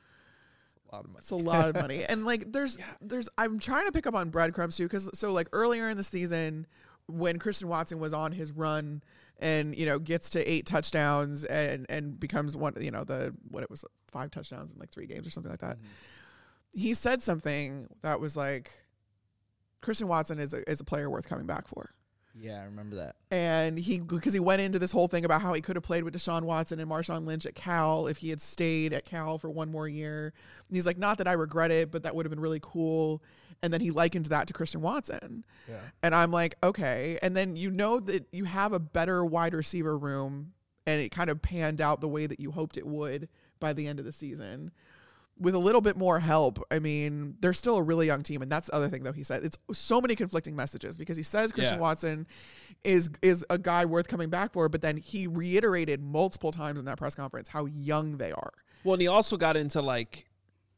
A lot of money. it's a lot of money." And like, there's, Yeah. there's, I'm trying to pick up on breadcrumbs too, because so like earlier in the season, when Christian Watson was on his run and, you know, gets to eight touchdowns and, and becomes one, you know, the, what it was, five touchdowns in like three games or something like that. Mm-hmm. He said something that was like, Christian Watson is a, is a player worth coming back for. Yeah, I remember that. And he, because he went into this whole thing about how he could have played with Deshaun Watson and Marshawn Lynch at Cal if he had stayed at Cal for one more year. And he's like, not that I regret it, but that would have been really cool. And then he likened that to Christian Watson. Yeah. And I'm like, okay. And then you know that you have a better wide receiver room, and it kind of panned out the way that you hoped it would by the end of the season. With a little bit more help, I mean, they're still a really young team, and that's the other thing, though. He said it's so many conflicting messages because he says Christian Yeah. Watson is is a guy worth coming back for, but then he reiterated multiple times in that press conference how young they are. Well, and he also got into like,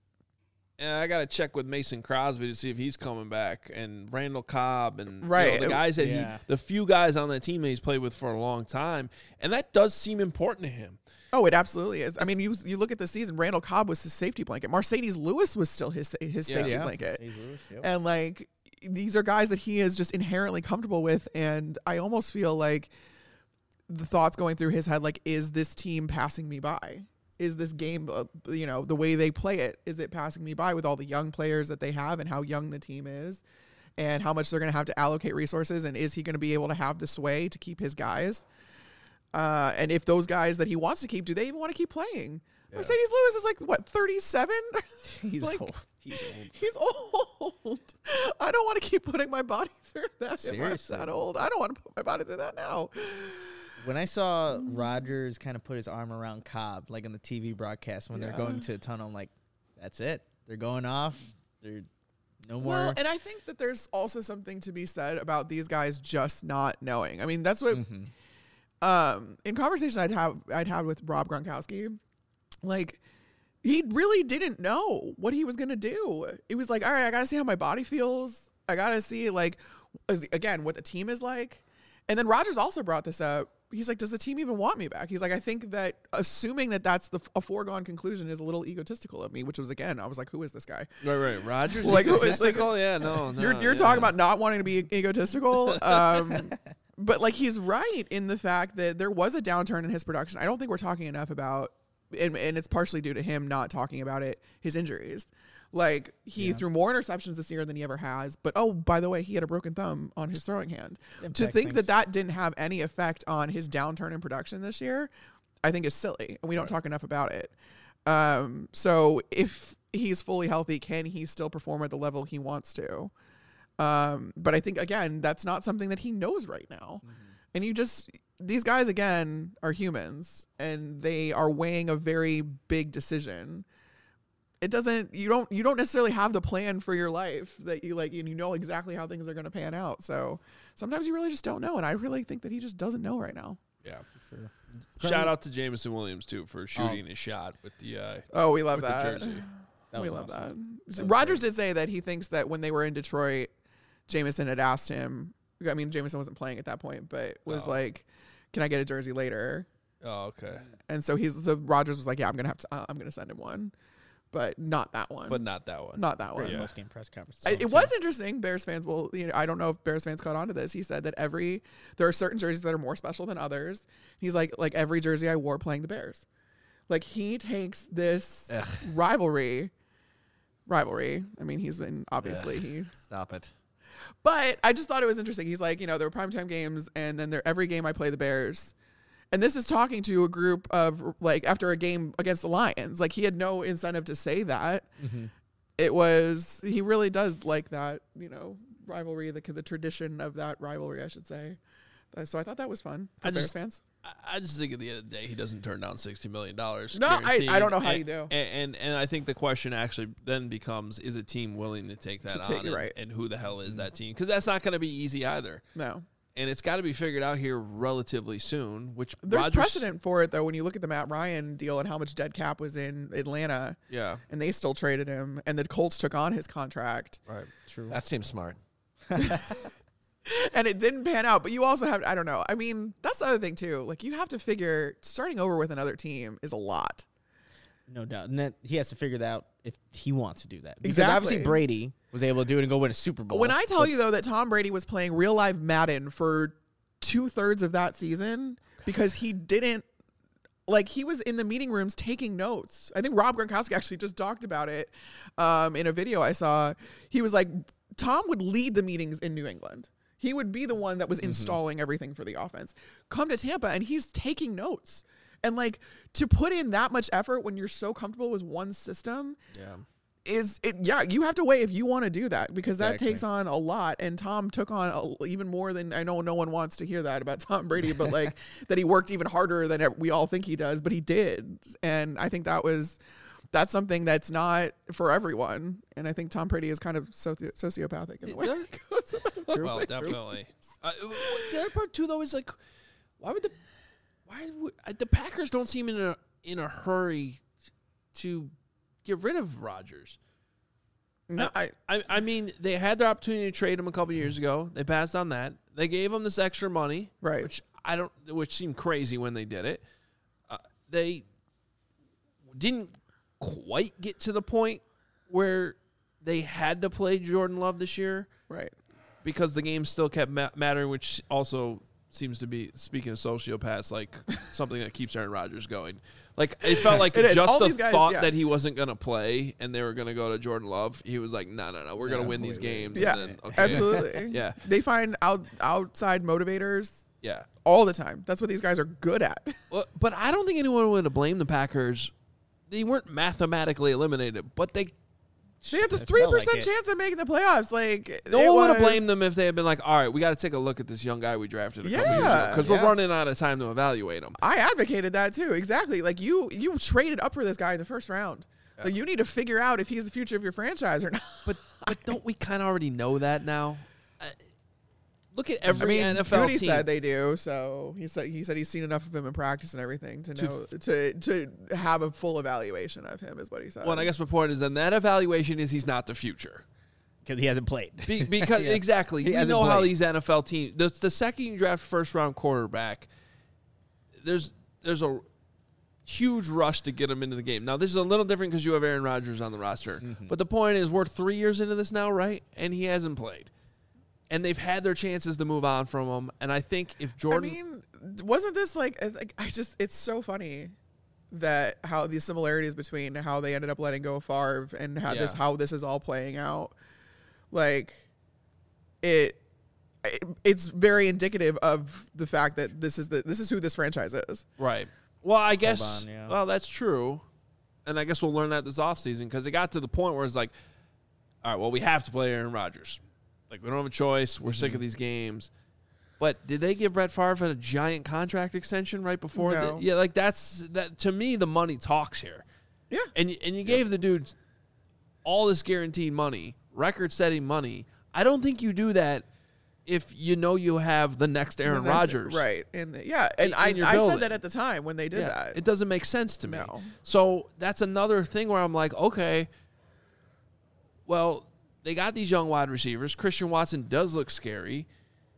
eh, I got to check with Mason Crosby to see if he's coming back, and Randall Cobb, and you know, Right. the guys that Yeah. he, the few guys on that team that he's played with for a long time, and that does seem important to him. Oh, it absolutely is. I mean, you you look at the season, Randall Cobb was his safety blanket. Mercedes Lewis was still his his Yeah. safety Yeah. blanket. Hayes Lewis, yep. And like, these are guys that he is just inherently comfortable with. And I almost feel like the thoughts going through his head, like, is this team passing me by? Is this game, uh, you know, the way they play it, is it passing me by with all the young players that they have and how young the team is and how much they're going to have to allocate resources? And is he going to be able to have the sway to keep his guys? Uh, and if those guys that he wants to keep, do they even want to keep playing? Yeah. Mercedes Lewis is like, what, thirty-seven? He's like- old. He's old. He's old. I don't want to keep putting my body through that. Seriously. If I'm that old. I don't want to put my body through that now. When I saw Rodgers kind of put his arm around Cobb, like on the T V broadcast when Yeah. they're going to a tunnel, I'm like, that's it. They're going off. They're no more. Well, and I think that there's also something to be said about these guys just not knowing. I mean, that's what Mhm. um, in conversation I'd have I'd had with Rob Gronkowski, like, he really didn't know what he was gonna do. It was like, all right, I gotta see how my body feels. I gotta see like is, again, what the team is like. And then Rodgers also brought this up. He's like, does the team even want me back? He's like, I think that assuming that that's the a foregone conclusion is a little egotistical of me, which was, again, I was like, who is this guy? Right, right. Rodgers Like, who is- egotistical? like, yeah, no, no. you're you're yeah. talking about not wanting to be egotistical. Um, but like, he's right in the fact that there was a downturn in his production. I don't think we're talking enough about, and, and it's partially due to him not talking about it, his injuries. Like, he Yeah. threw more interceptions this year than he ever has. But, oh, by the way, he had a broken thumb on his throwing hand. Impact to think things. that that didn't have any effect on his downturn in production this year, I think is silly. And we don't Right. talk enough about it. Um, so if he's fully healthy, can he still perform at the level he wants to? Um, but I think, again, that's not something that he knows right now. Mm-hmm. And you just, these guys, again, are humans and they are weighing a very big decision. It doesn't, you don't, you don't necessarily have the plan for your life that you like, and you know exactly how things are going to pan out. So sometimes you really just don't know. And I really think that he just doesn't know right now. Yeah. Sure. Shout out to Jameson Williams, too, for shooting his shot with the uh, Oh, we love with that. the jersey. That we was love awesome. that. That was Rodgers great. did say that he thinks that when they were in Detroit, Jameson had asked him, I mean, Jameson wasn't playing at that point, but was Oh. like, can I get a jersey later? Oh, okay. And so he's the Rodgers was like, yeah, I'm gonna have to, uh, I'm gonna send him one, but not that one. But not that one. not that one. Great Yeah. post game press conference. I, it was interesting. Bears fans will, you know, I don't know if Bears fans caught on to this. He said that every there are certain jerseys that are more special than others. He's like, like every jersey I wore playing the Bears. Like he takes this Ugh. rivalry, rivalry. I mean, he's been obviously Ugh. he. Stop it. But I just thought it was interesting. He's like, you know, there were primetime games, and then there every game I play the Bears. And this is talking to a group of like after a game against the Lions. Like he had no incentive to say that. Mm-hmm. It was he really does like that, you know, rivalry, the the tradition of that rivalry, I should say. Uh, So I thought that was fun for I Bears just- fans. I- I just think at the end of the day, he doesn't turn down sixty million dollars. No, I- I don't know how you do. And, and and I think the question actually then becomes: is a team willing to take that To on? take- and, right. and who the hell is that team? Because that's not going to be easy either. No. And it's got to be figured out here relatively soon. Which There's Rodgers- precedent for it though when you look at the Matt Ryan deal and how much dead cap was in Atlanta Yeah, and they still traded him and the Colts took on his contract. right. True. That seems smart. And it didn't pan out. But you also have, I don't know. I mean, that's the other thing too. Like you have to figure starting over with another team is a lot. No doubt. And that he has to figure that out if he wants to do that. Because Exactly. obviously Brady was able to do it and go win a Super Bowl. When I tell you though that Tom Brady was playing real life Madden for two thirds of that season because he didn't like he was in the meeting rooms taking notes. I think Rob Gronkowski actually just talked about it um, in a video I saw. He was like, Tom would lead the meetings in New England. He would be the one that was installing everything for the offense. Come to Tampa and he's taking notes. And like to put in that much effort when you're so comfortable with one system Yeah. is it yeah you have to weigh if you want to do that because that Exactly. takes on a lot and Tom took on a, even more than I know no one wants to hear that about Tom Brady but like that he worked even harder than we all think he does but he did and I think that was that's something that's not for everyone and I think Tom Brady is kind of soci- sociopathic in the way There- he goes about it. Well, definitely. Uh, the other part too, though, is like, why would the why would, uh, the Packers don't seem in a in a hurry to get rid of Rodgers? no, I, I I mean, they had their opportunity to trade him a couple years ago. They passed on that. They gave him this extra money, right which I don't, which seemed crazy when they did it. Uh, they didn't quite get to the point where they had to play Jordan Love this year right because the game still kept ma- mattering, which also seems to be, speaking of sociopaths, like something that keeps Aaron Rodgers going. Like it felt like It is. just All the these guys- thought yeah. that he wasn't going to play and they were going to go to Jordan Love. He was like, no, no, no, we're going to Yeah, win these wait, wait. games. yeah and then, okay. absolutely Yeah. they find out outside motivators Yeah. all the time that's what these guys are good at. Well, but I don't think anyone would have blamed the Packers. They weren't mathematically eliminated, but they They had a It three felt like percent it. chance of making the playoffs. Like no it one would have was- blamed them if they had been like, all right, we got to take a look at this young guy we drafted a couple years ago Yeah. because Yeah. we're running out of time to evaluate him. I advocated that too. Exactly. Like you, you traded up for this guy in the first round. Like you need to figure out if he's the future of your franchise or not. But but don't we kind of already know that now? Uh, look at every I mean, N F L Goody team. said they do. So he said he said he's seen enough of him in practice and everything to know to to have a full evaluation of him is what he said. well, and I guess my point is then that evaluation is he's not the future. because he hasn't played. Be, because Yeah. exactly, He we hasn't know how played. these N F L teams. The, the second you draft first round quarterback, there's there's a huge rush to get him into the game. Now this is a little different because you have Aaron Rodgers on the roster, Mm-hmm. but the point is we're three years into this now, right? And he hasn't played, and they've had their chances to move on from him. And I think if Jordan, I mean, wasn't this like, like I just it's so funny that how the similarities between how they ended up letting go of Favre and how this Yeah. how this is all playing out, like it, it it's very indicative of the fact that this is the this is who this franchise is. right? Well, I guess. on, yeah. Well, that's true, and I guess we'll learn that this offseason because it got to the point where it's like, all right, well, we have to play Aaron Rodgers. Like we don't have a choice. We're Mm-hmm. sick of these games. But did they give Brett Favre a giant contract extension right before? No. The, yeah, like that's that to me. The money talks here. Yeah. And y- and you gave the dude all this guaranteed money, record-setting money. I don't think you do that if you know you have the next Aaron The next- Rodgers. right? And the- yeah, and In- I, in your I building. said that at the time when they did Yeah, that. it doesn't make sense to me. No. So that's another thing where I'm like, okay, well, they got these young wide receivers. Christian Watson does look scary.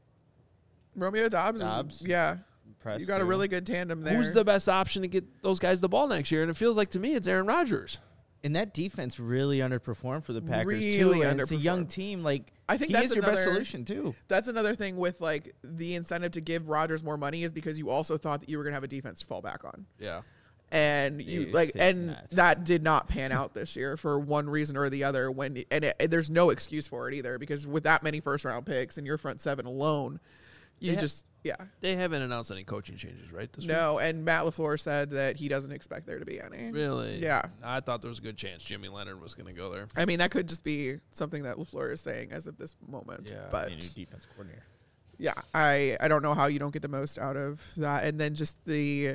Romeo Dobbs, Dobbs. is yeah. Impressed You got a too. really good tandem there. Who's the best option to get those guys the ball next year? And it feels like to me it's Aaron Rodgers. And that defense really underperformed for the Packers Really too. And it's a young underperformed. team. Like I think he that's is your best another- solution too. That's another thing with like the incentive to give Rodgers more money is because you also thought that you were going to have a defense to fall back on. Yeah. And you You like think and that. that did not pan out this year for one reason or the other when and it, there's no excuse for it either because with that many first round picks and your front seven alone, you Yeah. just yeah. They haven't announced any coaching changes, right? This No, and Matt LaFleur said that he doesn't expect there to be any. week? Really? Yeah. I thought there was a good chance Jimmy Leonard was going to go there. I mean, that could just be something that LaFleur is saying as of this moment. Yeah. But A new defense coordinator. yeah, I, I don't know how you don't get the most out of that. And then just the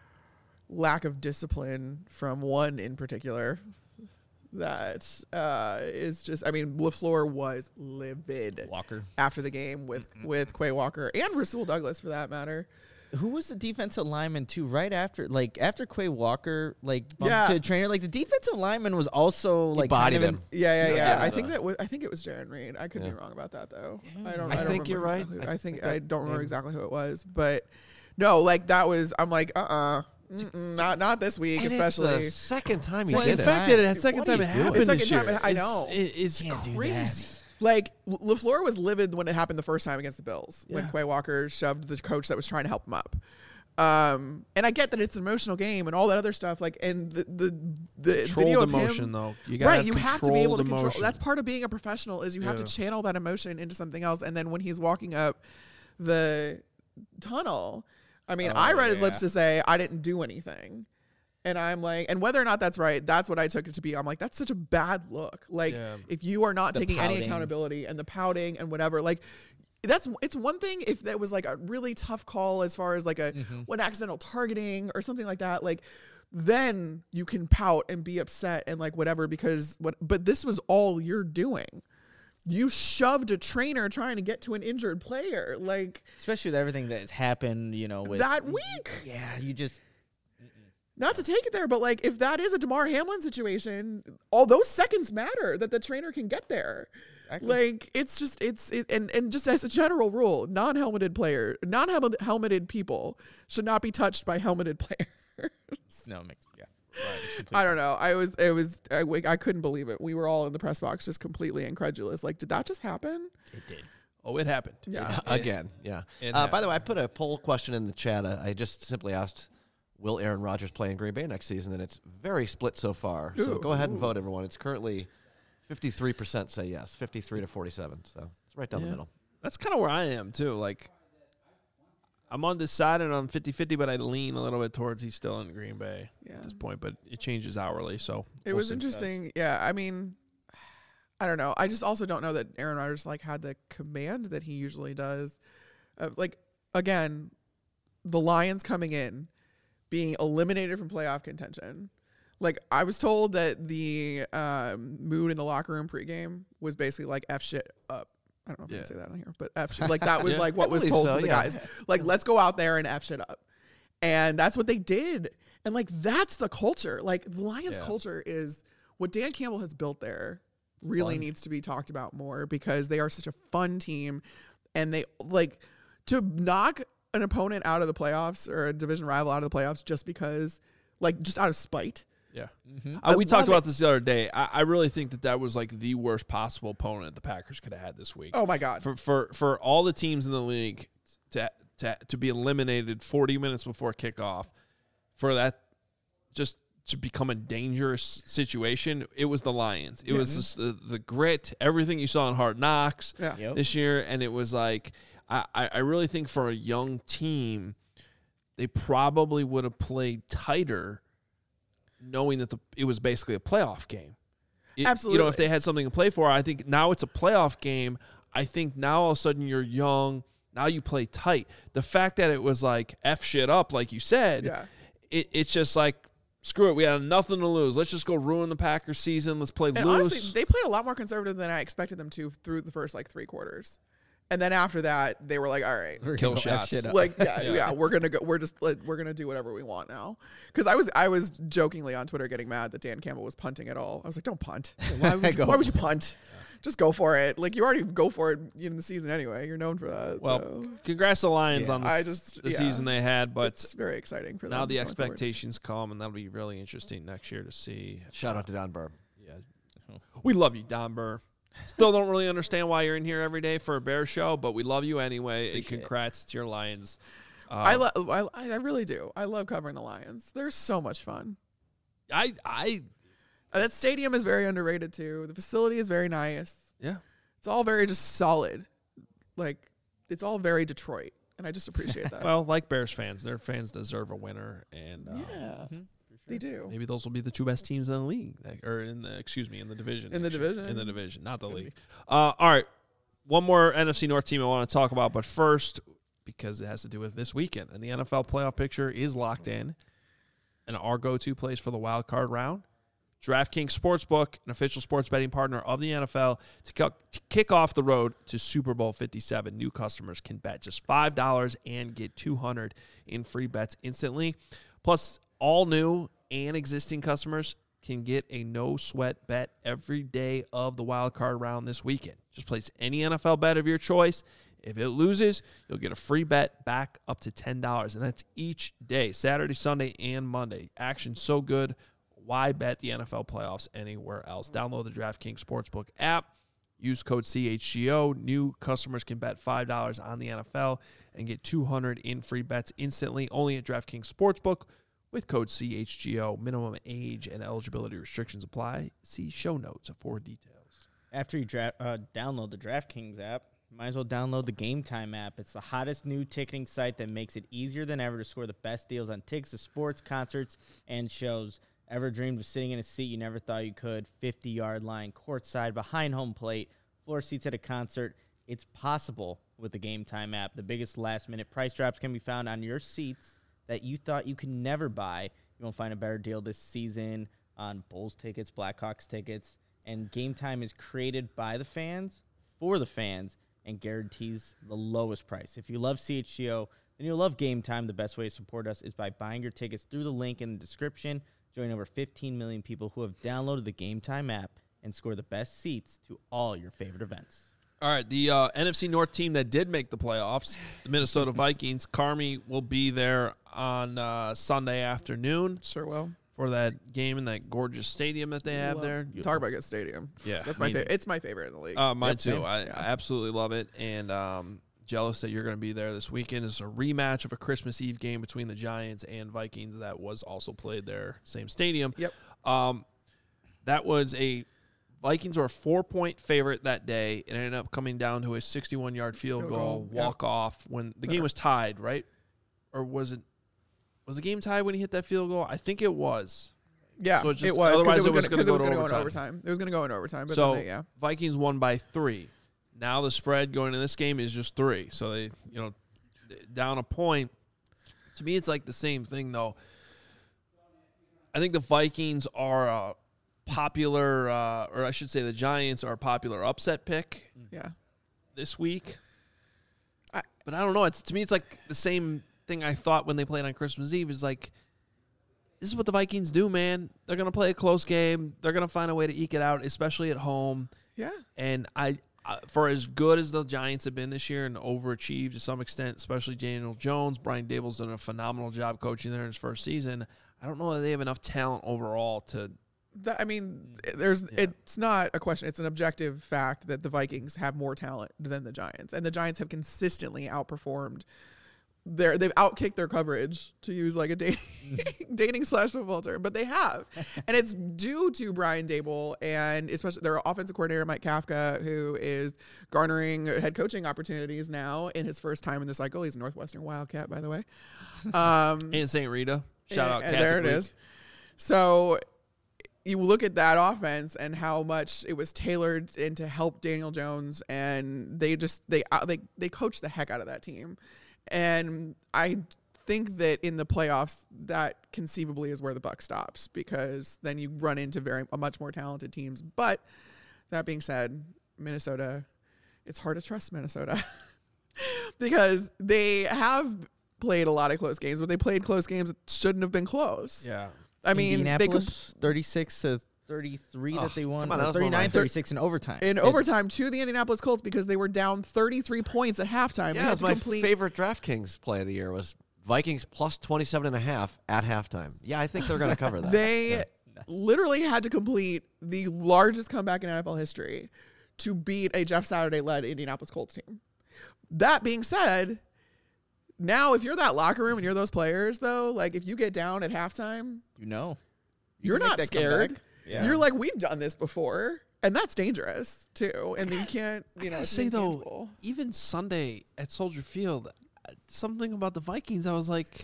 lack of discipline from one in particular that uh, is just, I mean, LaFleur was livid Walker. after the game with, with Quay Walker and Rasul Douglas for that matter. Who was the defensive lineman too? Right after, like after Quay Walker, like bumped Yeah. to the trainer, like the defensive lineman was also like bodied kind of him. Yeah, yeah, yeah. Yeah, I the- think that was, I think it was Jaron Reed. I could Yeah. be wrong about that though. I don't. I I, don't think you're remember right. exactly- I I think think I that don't remember maybe- exactly who it was, but no, like that was. I'm like, uh, uh not not this week, And it's especially. the second time he Well, did in it. fact, that it second What are time you it doing? happened It's this second year. time it- I is- know. it- is Can't do crazy. that. Like L- LaFleur was livid when it happened the first time against the Bills when Yeah. Quay Walker shoved the coach that was trying to help him up. Um, and I get that it's an emotional game and all that other stuff. Like, and the the the video Controlled of emotion, him, though. You gotta right? have You have to be able to controlled control. emotion. That's part of being a professional is you have Yeah. to channel that emotion into something else. And then when he's walking up the tunnel, I mean, Oh, I read his yeah. lips to say I didn't do anything. And I'm like, and whether or not that's right, that's what I took it to be. I'm like, that's such a bad look. Like, Yeah. if you are not The taking any pouting. accountability and the pouting and whatever, like, that's it's one thing if that was like a really tough call as far as like a Mm-hmm. one accidental targeting or something like that. Like, then you can pout and be upset and like whatever because what. But this was all you're doing. You shoved a trainer trying to get to an injured player. Like Especially with everything that has happened, you know, with that week. Yeah, you just Not to take it there, but like if that is a DeMar Hamlin situation, all those seconds matter that the trainer can get there. Exactly. Like it's just it's it, and and just as a general rule, non-helmeted player, non-helmeted people should not be touched by helmeted players. no, it makes yeah. Right, it should I don't know. I was it was I, I couldn't believe it. We were all in the press box just completely incredulous. Like, did that just happen? It did. Oh, it happened. Yeah. Again, yeah. it Uh, by the way, I happened. put a poll question in the chat. Uh, I just simply asked, will Aaron Rodgers play in Green Bay next season? And it's very split so far. So Ooh, go ahead and ooh. vote, everyone. It's currently fifty-three percent say yes, fifty-three to forty-seven. So it's right down Yeah. the middle. That's kind of where I am, too. Like, I'm on this side and I'm fifty-fifty, but I lean a little bit towards he's still in Green Bay Yeah. at this point, but it changes hourly, so It we'll was see. interesting. Yeah, I mean, I don't know. I just also don't know that Aaron Rodgers like had the command that he usually does. Uh, like again, the Lions coming in, being eliminated from playoff contention. Like I was told that the um, mood in the locker room pregame was basically like F shit up. I don't know if I Yeah. can say that on here, but F shit. Like that was Yeah. like what I was believe told so, to the yeah. guys. Like let's go out there and F shit up. And that's what they did. And like that's the culture. Like the Lions Yeah. culture is what Dan Campbell has built there really Fun. needs to be talked about more because they are such a fun team, and they like to knock an opponent out of the playoffs or a division rival out of the playoffs just because, like, just out of spite. Yeah. Mm-hmm. Uh, we I talked love about it. this the other day. I, I really think that that was like the worst possible opponent the Packers could have had this week. Oh my God. For for for all the teams in the league to to to be eliminated forty minutes before kickoff, for that just to become a dangerous situation, it was the Lions. It Yeah. was just the, the grit, everything you saw in Hard Knocks Yeah. Yep. this year, and it was like I I I really think for a young team, they probably would have played tighter, knowing that the it was basically a playoff game. It- You know, Absolutely. if they had something to play for, I think now it's a playoff game. I think now all of a sudden you're young. Now you play tight. The fact that it was like F shit up, like you said, Yeah. it, it's just like, screw it. We had nothing to lose. Let's just go ruin the Packers season. Let's play And loose. honestly, they played a lot more conservative than I expected them to through the first like three quarters. And then after that, they were like, all right, We're Kill gonna go F shots. shit up. like yeah, Yeah. yeah, we're gonna go. We're just like, we're gonna do whatever we want now. Because I was I was jokingly on Twitter getting mad that Dan Campbell was punting at all. I was like, don't punt. Why would you Why would you punt? Just go for it. Like you already go for it in the season anyway. You're known for that. well, so congrats to the Lions Yeah. on the, I s- just- the yeah. season they had, but it's very exciting for them. now the going forward. expectations come, and that'll be really interesting next year to see. Shout out to Don Burr. Yeah, we love you, Don Burr. Still don't really understand why you're in here every day for a Bears show, but we love you anyway. And Appreciate it. congrats to your Lions. Um, I, lo- I I really do. I love covering the Lions. They're so much fun. I, I, Uh, that stadium is very underrated too. The facility is very nice. yeah. It's all very just solid. Like it's all very Detroit, and I just appreciate that. Well, like Bears fans, their fans deserve a winner, and uh, yeah, Mhm. they do. maybe those will be the two best teams in the league, like- or in the excuse me, in the division. In the actually. division. in the division, not the Could league. Uh, all right, one more N F C North team I want to talk about, but first, because it has to do with this weekend, and the N F L playoff picture is locked in, and our go-to place for the wild card round. DraftKings Sportsbook, an official sports betting partner of the N F L, to, co- to kick off the road to Super Bowl fifty-seven. New customers can bet just five dollars and get two hundred dollars in free bets instantly. Plus, all new and existing customers can get a no-sweat bet every day of the wild card round this weekend. Just place any N F L bet of your choice. If it loses, you'll get a free bet back up to ten dollars, and that's each day, Saturday, Sunday, and Monday. Action so good. Why bet the N F L playoffs anywhere else? Download the DraftKings Sportsbook app. Use code C H G O. New customers can bet five dollars on the N F L and get two hundred dollars in free bets instantly. Only at DraftKings Sportsbook with code C H G O. Minimum age and eligibility restrictions apply. See show notes for details. After you dra- uh, download the DraftKings app, you might as well download the Game Time app. It's the hottest new ticketing site that makes it easier than ever to score the best deals on tickets to sports, concerts, and shows. Ever dreamed of sitting in a seat you never thought you could? fifty-yard line, courtside, behind home plate, floor seats at a concert. It's possible with the Game Time app. The biggest last-minute price drops can be found on your seats that you thought you could never buy. You won't find a better deal this season on Bulls tickets, Blackhawks tickets. And Game Time is created by the fans, for the fans, and guarantees the lowest price. If you love C H G O, then you'll love Game Time. The best way to support us is by buying your tickets through the link in the description. Join over fifteen million people who have downloaded the Game Time app and score the best seats to all your favorite events. All right, the uh, N F C North team that did make the playoffs, the Minnesota Vikings. Carmi will be there on uh, Sunday afternoon Sure will. for that game in that gorgeous stadium that they have Love- there. Talk about a good stadium. Yeah, that's my amazing. favorite. It's my favorite in the league. Uh, mine Yep, too. same. I, Yeah. I absolutely love it, and um, jealous that you're going to be there this weekend. It's a rematch of a Christmas Eve game between the Giants and Vikings that was also played there, same stadium. Yep. Um, that was a Vikings were a four-point favorite that day. It ended up coming down to a sixty-one-yard field, Field goal, goal, yep. walk-off when the game was tied, right? Or was it was the game tied when he hit that field goal? I think it was. Yeah, So it's just- it was otherwise because it it was was going gonna to go go to in overtime. overtime. It was going to go in overtime, but So then they, yeah, Vikings won by three. Now the spread going into this game is just three. So they, you know, down a point. To me, it's like the same thing, though. I think the Vikings are a popular, uh, or I should say the Giants are a popular upset pick yeah. this week. I- but I don't know. It's to me, it's like the same thing I thought when they played on Christmas Eve. Is like this is what the Vikings do, man. They're going to play a close game. They're going to find a way to eke it out, especially at home. Yeah. And I, uh, for as good as the Giants have been this year and overachieved to some extent, especially Daniel Jones, Brian Dable's done a phenomenal job coaching there in his first season. I don't know that they have enough talent overall to. That, I mean, there's Yeah. it's not a question. It's an objective fact that the Vikings have more talent than the Giants, and the Giants have consistently outperformed. Their they've outkicked their coverage, to use like a dating dating slash football term, but they have, and it's due to Brian Dable and especially their offensive coordinator Mike Kafka, who is garnering head coaching opportunities now in his first time in the cycle. He's a Northwestern Wildcat, by the way. Um, In Saint Rita. Shout out and Catholic there it League. is. So you look at that offense and how much it was tailored in to help Daniel Jones, and they just they uh, they they coached the heck out of that team. And I think that in the playoffs, that conceivably is where the buck stops, because then you run into very a much more talented teams. But that being said, Minnesota, it's hard to trust Minnesota because they have played a lot of close games, but they played close games that shouldn't have been close. Yeah. I mean, they could, Indianapolis, thirty-six to thirty-three Oh, that they won. come on, that or was one of my thirty-nine thir- thirty-six in overtime. in It- overtime to the Indianapolis Colts because they were down thirty-three points at halftime. They Yeah, had that's to my complete- favorite DraftKings play of the year was Vikings plus twenty-seven and a half at halftime. Yeah, I think they're going to cover that. They Yeah. literally had to complete the largest comeback in N F L history to beat a Jeff Saturday-led Indianapolis Colts team. That being said, now if you're that locker room and you're those players, though, like if you get down at halftime, you know, you're can make not that scared. comeback. Yeah. You're like, we've done this before, and that's dangerous too. And you can't, you know, I it's say though, intangible. even Sunday at Soldier Field, uh, something about the Vikings, I was like,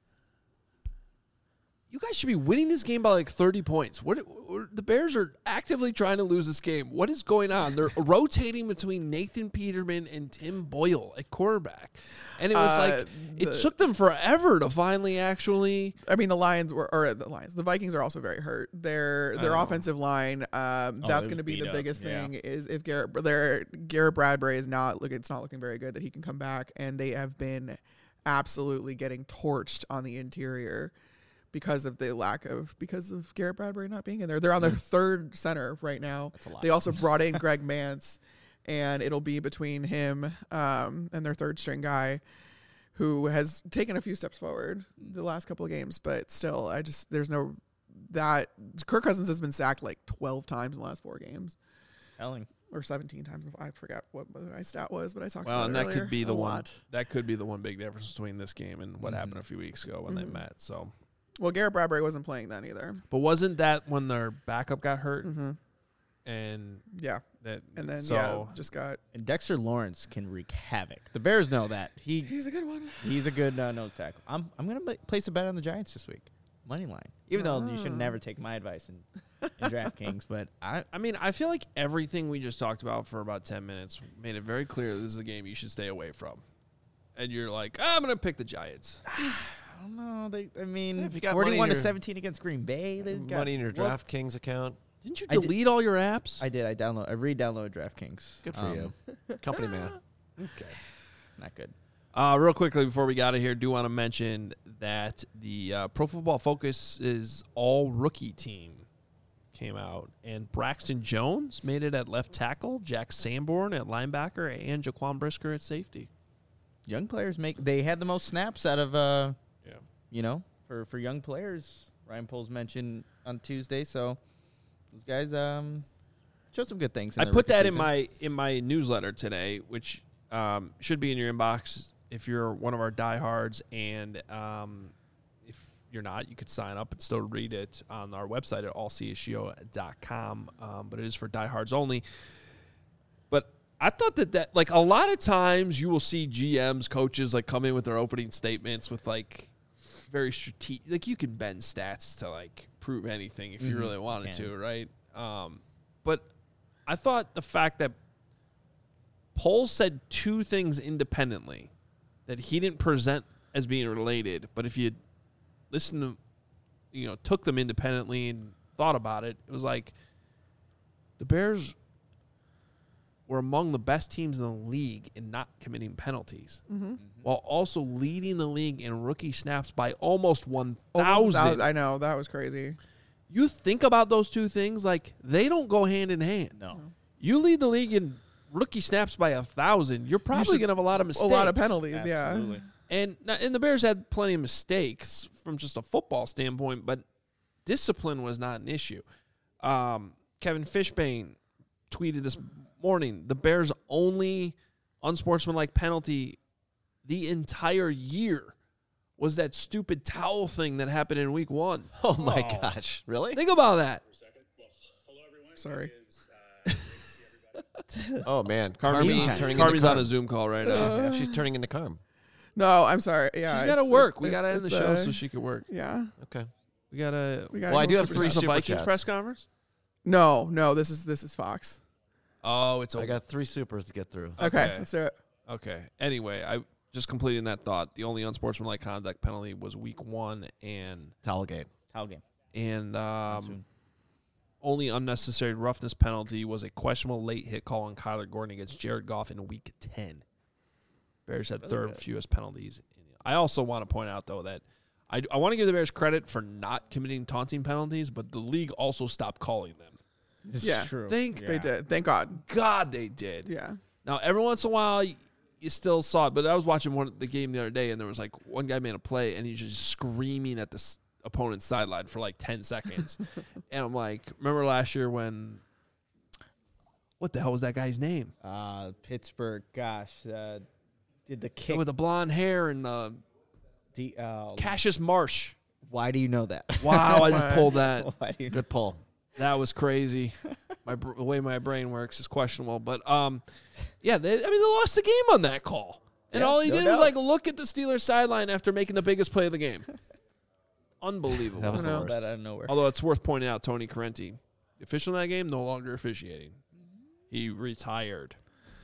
you guys should be winning this game by like thirty points. What, what the Bears are actively trying to lose this game. What is going on? They're rotating between Nathan Peterman and Tim Boyle at quarterback, and it was Uh, like it the- took them forever to finally actually. I mean, the Lions were, or the Lions, the Vikings are also very hurt. Their their Oh. offensive line, um, Oh, that's it going to was be beat the up, biggest yeah. thing. Is if Garrett, their Garrett Bradbury is not look, it's not looking very good that he can come back, and they have been absolutely getting torched on the interior because of the lack of because of Garrett Bradbury not being in there. They're on their third center right now. That's a lot. They also brought in Greg Mance, and it'll be between him um, and their third string guy, who has taken a few steps forward the last couple of games, but still, I just there's no that Kirk Cousins has been sacked like twelve times in the last four games, telling. or seventeen times. I forgot what my stat was, but I talked Well, about and it that earlier. could be the A one. lot. That could be the one big difference between this game and what Mhm. happened a few weeks ago when they Mhm. met. So, Well, Garrett Bradbury wasn't playing then either. but wasn't that when their backup got hurt hmm and Yeah, that? and then so yeah, just got. And Dexter Lawrence can wreak havoc. The Bears know that. He He's a good one. he's a good uh, nose tackle. I'm I'm gonna ma- place a bet on the Giants this week, money line. Even though you should Oh. never take my advice in, in DraftKings, but I I mean, I feel like everything we just talked about for about ten minutes made it very clear this is a game you should stay away from. And you're like, I'm going to pick the Giants. I don't know. They I mean, If you got money in forty-one to your- seventeen against Green Bay. They got Money in your well, DraftKings account. Didn't you I did- delete all your apps? I did. I download. I re-downloaded DraftKings. Good for Um, you. Company man. Okay. Not good. Uh, real quickly before we got out of here, do want to mention that the uh, Pro Football Focus's all rookie team came out, and Braxton Jones made it at left tackle, Jack Sanborn at linebacker, and Jaquan Brisker at safety. Young players make. They had the most snaps out of. Uh, Yeah. you know, for for young players. Ryan Poles mentioned on Tuesday, so those guys um showed some good things. In I their put rookie that in season. my in my newsletter today, which um, should be in your inbox if you're one of our diehards, and um, if you're not, you could sign up and still read it on our website at all c s g o dot com. Um, but it is for diehards only. But I thought that that like a lot of times you will see G Ms, coaches like come in with their opening statements with like very strategic, like you can bend stats to like prove anything if you Mhm, really wanted can. to, right? Um, but I thought the fact that Poles said two things independently that he didn't present as being related, but if you listen to, you know, took them independently and thought about it, it was like the Bears were among the best teams in the league in not committing penalties, Mm-hmm. while also leading the league in rookie snaps by almost one Almost a thousand. thou- I know that was crazy. You think about those two things, like they don't go hand in hand. No. You lead the league in rookie snaps by a thousand. You're probably should- going to have a lot of mistakes. A lot of penalties. Absolutely. And and the Bears had plenty of mistakes from just a football standpoint, but discipline was not an issue. Um, Kevin Fishbane tweeted this morning, the Bears' only unsportsmanlike penalty the entire year was that stupid towel thing that happened in week one. Oh my gosh, really? Think about that. Yeah. Sorry. Oh man, Carmi, Carmi turning Carmi's into on a Carm. Zoom call right now. Uh, Yeah, she's turning into Carm. No, I'm sorry. Yeah, She's got to it's- work. it's- We got to it's- end the it's, show uh, so she could work. Yeah. Okay. We got to. We got. Well, I do have Is three this a super Vikings chats. press conference? No, no. This is this is Fox. Oh, it's a. I got three supers to get through. Okay, Okay. let's do it. Okay. Anyway, I just completing that thought. The only unsportsmanlike conduct penalty was week one, and Towel game. Towel game. and um, soon. only unnecessary roughness penalty was a questionable late hit call on Kyler Gordon against Jared Goff in week ten. Bears had third fewest penalties. I also want to point out though that I I want to give the Bears credit for not committing taunting penalties, but the league also stopped calling them. This Yeah. is true. Thank They did. Thank God. God they did. Yeah. Now, every once in a while, you, you still saw it. But I was watching one the game the other day, and there was like one guy made a play, and he's just screaming at the s- opponent's sideline for like ten seconds. And I'm like, remember last year when? What the hell was that guy's name? Uh, Pittsburgh. Gosh, uh, did the kick? With the blonde hair and uh, the, uh, Cassius Marsh. why do you know that? Wow, I just pulled that. Why do you know? Good pull. That was crazy. My br- the way my brain works is questionable, but um, yeah, they, I mean they lost the game on that call, and Yeah, all he no did was doubt. like look at the Steelers sideline after making the biggest play of the game. Unbelievable. That was I the know. worst. That out of nowhere. Although it's worth pointing out, Tony Correnti, the official in that game, no longer officiating. He retired.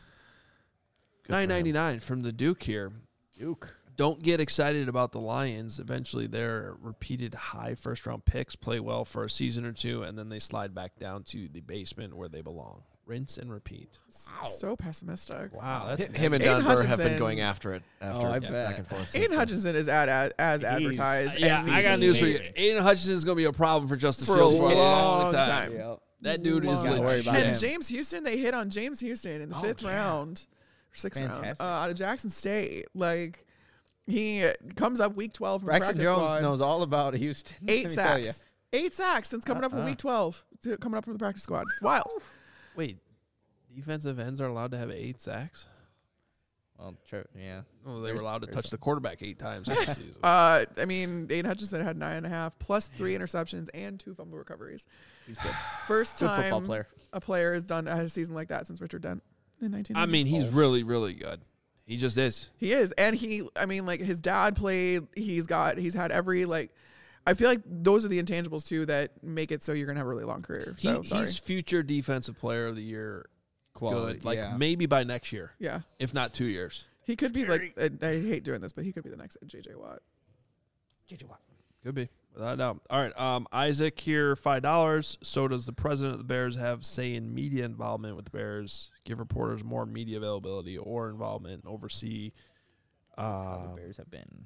Good for him. Nine ninety nine from the Duke here. Duke. Don't get excited about the Lions. Eventually, their repeated high first round picks play well for a season or two, and then they slide back down to the basement where they belong. Rinse and repeat. So pessimistic. Wow, that's Hi- Him and Aiden Don Burr have been Hutchinson- going after it after Oh, I back bet. and forth. since Aiden then. Hutchinson is at, as, as He's- advertised. yeah, and I he's got news for you. amazing. Aiden Hutchinson is going to be a problem for Justice For a Fields for a long long time. time. Yep. That dude is Long Gotta worry legit. about And him. James Houston, they hit on James Houston in the Oh, fifth yeah. round, or sixth round, Fantastic. uh, out of Jackson State. Like he comes up week twelve from the Braxton practice Jones squad. knows all about Houston. Eight Let me tell ya. sacks, eight sacks since coming up from Uh-uh. week twelve, to, coming up from the practice squad. It's wild. Wait, defensive ends are allowed to have eight sacks? Well, true. Yeah. Oh, they There's- were allowed to there's touch some. the quarterback eight times in the season. Uh, I mean, Aiden Hutchinson had nine and a half plus three interceptions and two fumble recoveries. He's good. First Good time football player. a player has done had a season like that since Richard Dent in nineteen. I mean, he's really, really good. He just is. He is, and he. I mean, like his dad played. He's got. He's had every like. I feel like those are the intangibles too that make it so you're gonna have a really long career. He, So sorry. he's future defensive player of the year. Quality, Good. Like yeah. maybe by next year, Yeah, if not two years. he could be like. I, I hate doing this, but he could be the next J J Watt. J J Watt. Could be, without a doubt. All right, um, Isaac here, five dollars. So does the president of the Bears have say in media involvement with the Bears? Give reporters more media availability or involvement, oversee uh, the Bears have been.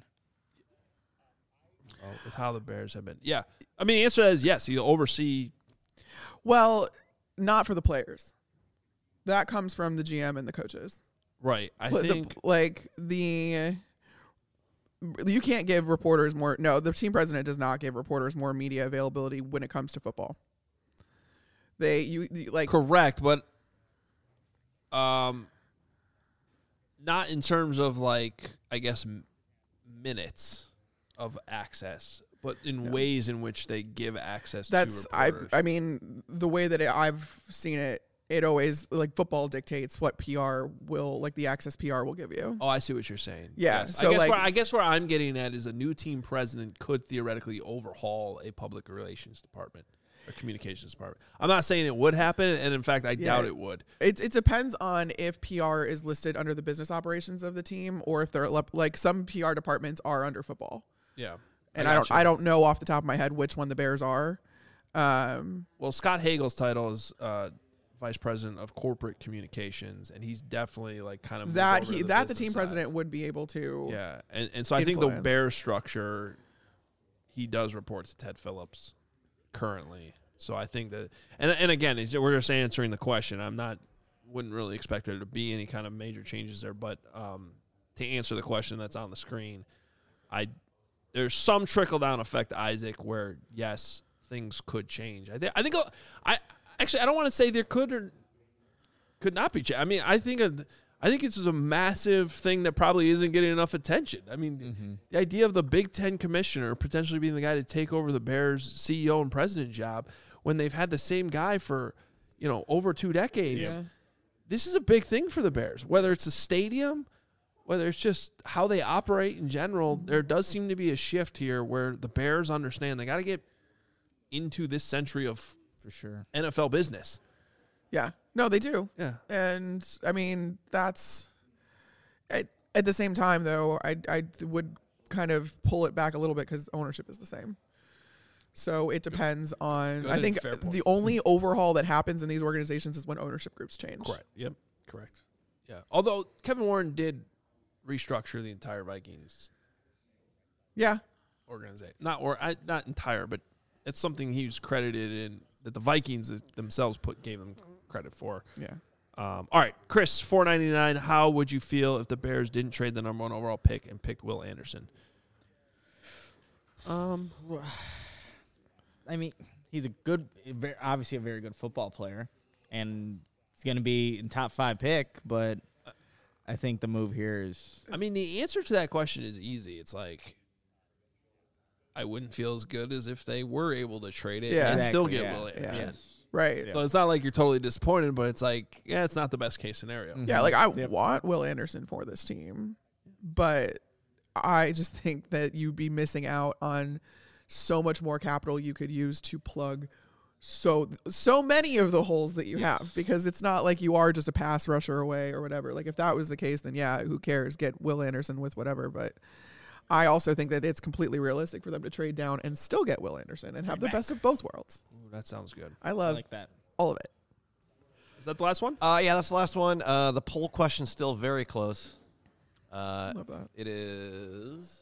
oh, with how the Bears have been. Yeah, I mean, the answer is yes. He'll oversee. Well, not for the players. That comes from the G M and the coaches. Right, I Pl- the- think. like the. You can't give reporters more. No, the team president does not give reporters more media availability when it comes to football. They you, you like Correct, but um, not in terms of like I guess m- minutes of access, but in No. ways in which they give access. that's to I. reporters. I mean, the way that it, I've seen it, it always like football dictates what P R will like the access P R will give you. Oh, I see what you're saying. Yeah, Yes. so, I guess like- where, I guess where I'm getting at is a new team president could theoretically overhaul a public relations department or communications department. I'm not saying it would happen, and in fact, I Yeah. doubt it would. It it depends on if P R is listed under the business operations of the team or if they're lep- like some P R departments are under football. Yeah. And I, don't gotcha. I don't know off the top of my head which one the Bears are. Um, Well, Scott Hagel's title is uh, vice president of corporate communications, and he's definitely like kind of that moved over he to that the business team side. president would be able to. Yeah, and and so I think the influence. Bears structure, he does report to Ted Phillips currently. So I think that, and and again, it's- we're just answering the question. I'm not, wouldn't really expect there to be any kind of major changes there, but um, to answer the question that's on the screen, I there's some trickle down effect, Isaac, where yes, things could change. I think I think I actually I don't want to say there could or could not be. Cha- I mean, I think a, I think it's a massive thing that probably isn't getting enough attention. I mean, Mm-hmm. the idea of the Big Ten commissioner potentially being the guy to take over the Bears C E O and president job when they've had the same guy for, you know, over two decades. Yeah. This is a big thing for the Bears, whether it's the stadium, whether it's just how they operate in general. There does seem to be a shift here where the Bears understand they got to get into this century of For sure. N F L business. Yeah. No, they do. Yeah. And I mean, that's at, at the same time, though, I, I would kind of pull it back a little bit because ownership is the same. So it depends on, Good I and think fair point. the only overhaul that happens in these organizations is when ownership groups change. Correct. Yep. Correct. Yeah. Although Kevin Warren did restructure the entire Vikings Yeah. organization, not or I, not entire, but it's something he was credited in that the Vikings themselves put gave them credit for. Yeah. Um, all right, Chris, four ninety nine. How would you feel if the Bears didn't trade the number one overall pick and picked Will Anderson? Um, I mean, he's a good, very, obviously a very good football player, and he's going to be in top five pick. But I think the move here is I mean, the answer to that question is easy. It's like I wouldn't feel as good as if they were able to trade it Yeah. and still Exactly, get yeah. Will Anderson. Yeah. Right. Yeah. So it's not like you're totally disappointed, but it's like, yeah, it's not the best case scenario. Mm. Yeah, like I Yep. want Will Anderson for this team, but I just think that you'd be missing out on so much more capital you could use to plug so so many of the holes that you Yes. have, because it's not like you are just a pass rusher away or whatever. Like if that was the case, then yeah, who cares? Get Will Anderson with whatever. But I also think that it's completely realistic for them to trade down and still get Will Anderson and have the back. best of both worlds. Ooh, that sounds good. I I love like that. all of it. Is that the last one? Uh, yeah, that's the last one. Uh, the poll question's still very close. Uh, Love that. it is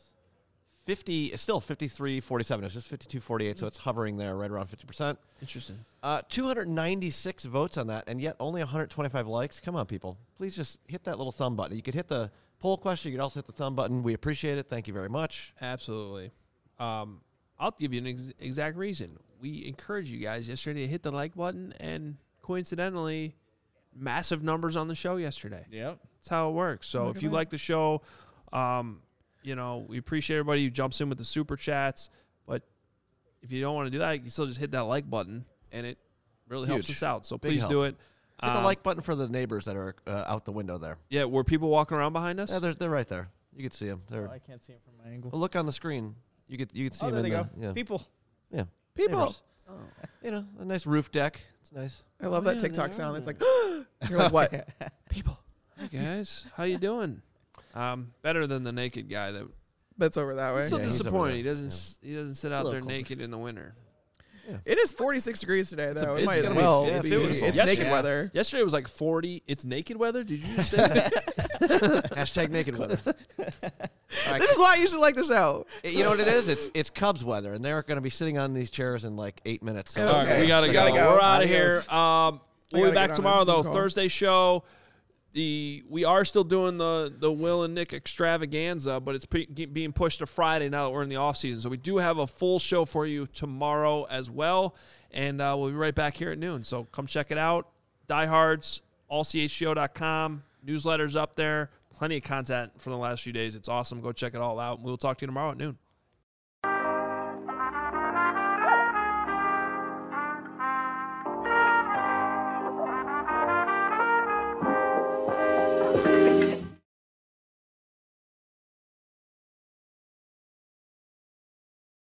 fifty. It's still fifty-three forty-seven. It's just fifty-two forty-eight, so it's hovering there right around fifty percent. Interesting. Uh, two hundred ninety-six votes on that, and yet only one hundred twenty-five likes. Come on, people. Please just hit that little thumb button. You could hit the poll question. You could also hit the thumb button. We appreciate it. Thank you very much. Absolutely. Um, I'll give you an ex- exact reason. We encouraged you guys yesterday to hit the like button, and coincidentally, massive numbers on the show yesterday. Yep. That's how it works. So Look if at you that. like the show, um, you know, we appreciate everybody who jumps in with the super chats. But if you don't want to do that, you can still just hit that like button, and it really helps Huge. us out. So Big please help. do it. Hit the Um, like button for the neighbors that are uh, out the window there. Yeah, were people walking around behind us? Yeah, they're, they're right there. You can see them. They're, Oh, I can't see him from my angle. well, look on the screen. You could you could see Oh, them there in they the go. yeah. People. yeah People. neighbors. You know, a nice roof deck. It's nice. I love Oh, that yeah, TikTok they sound. are. It's like, you're like, what? People. Hey guys, how you doing? Um, better than the naked guy that. That's over that way. I'm so Yeah, he's over disappointed. there. He doesn't. s He doesn't sit It's a out there little naked in the winter. It is forty-six degrees today, a- though. It it's might as gonna be- well yeah, be. if it was- It's Yes, naked yeah. weather. Yesterday was like forty. It's naked weather. Did you just say that? Hashtag naked weather. All right, This is why you should like the show. you know what it is? It's it's Cubs weather, and they're going to be sitting on these chairs in like eight minutes. So Okay. All right, we gotta, We go. gotta go. We're out of Adios. here. Um, We we'll be gotta back get on tomorrow this Zoom though. call. Thursday show. The we are still doing the the Will and Nick extravaganza, but it's pre- being pushed to Friday now that we're in the off season. So we do have a full show for you tomorrow as well, and uh, we'll be right back here at noon. So come check it out. Diehards, all c h g o dot com, newsletters up there. Plenty of content from the last few days. It's awesome. Go check it all out. We'll talk to you tomorrow at noon.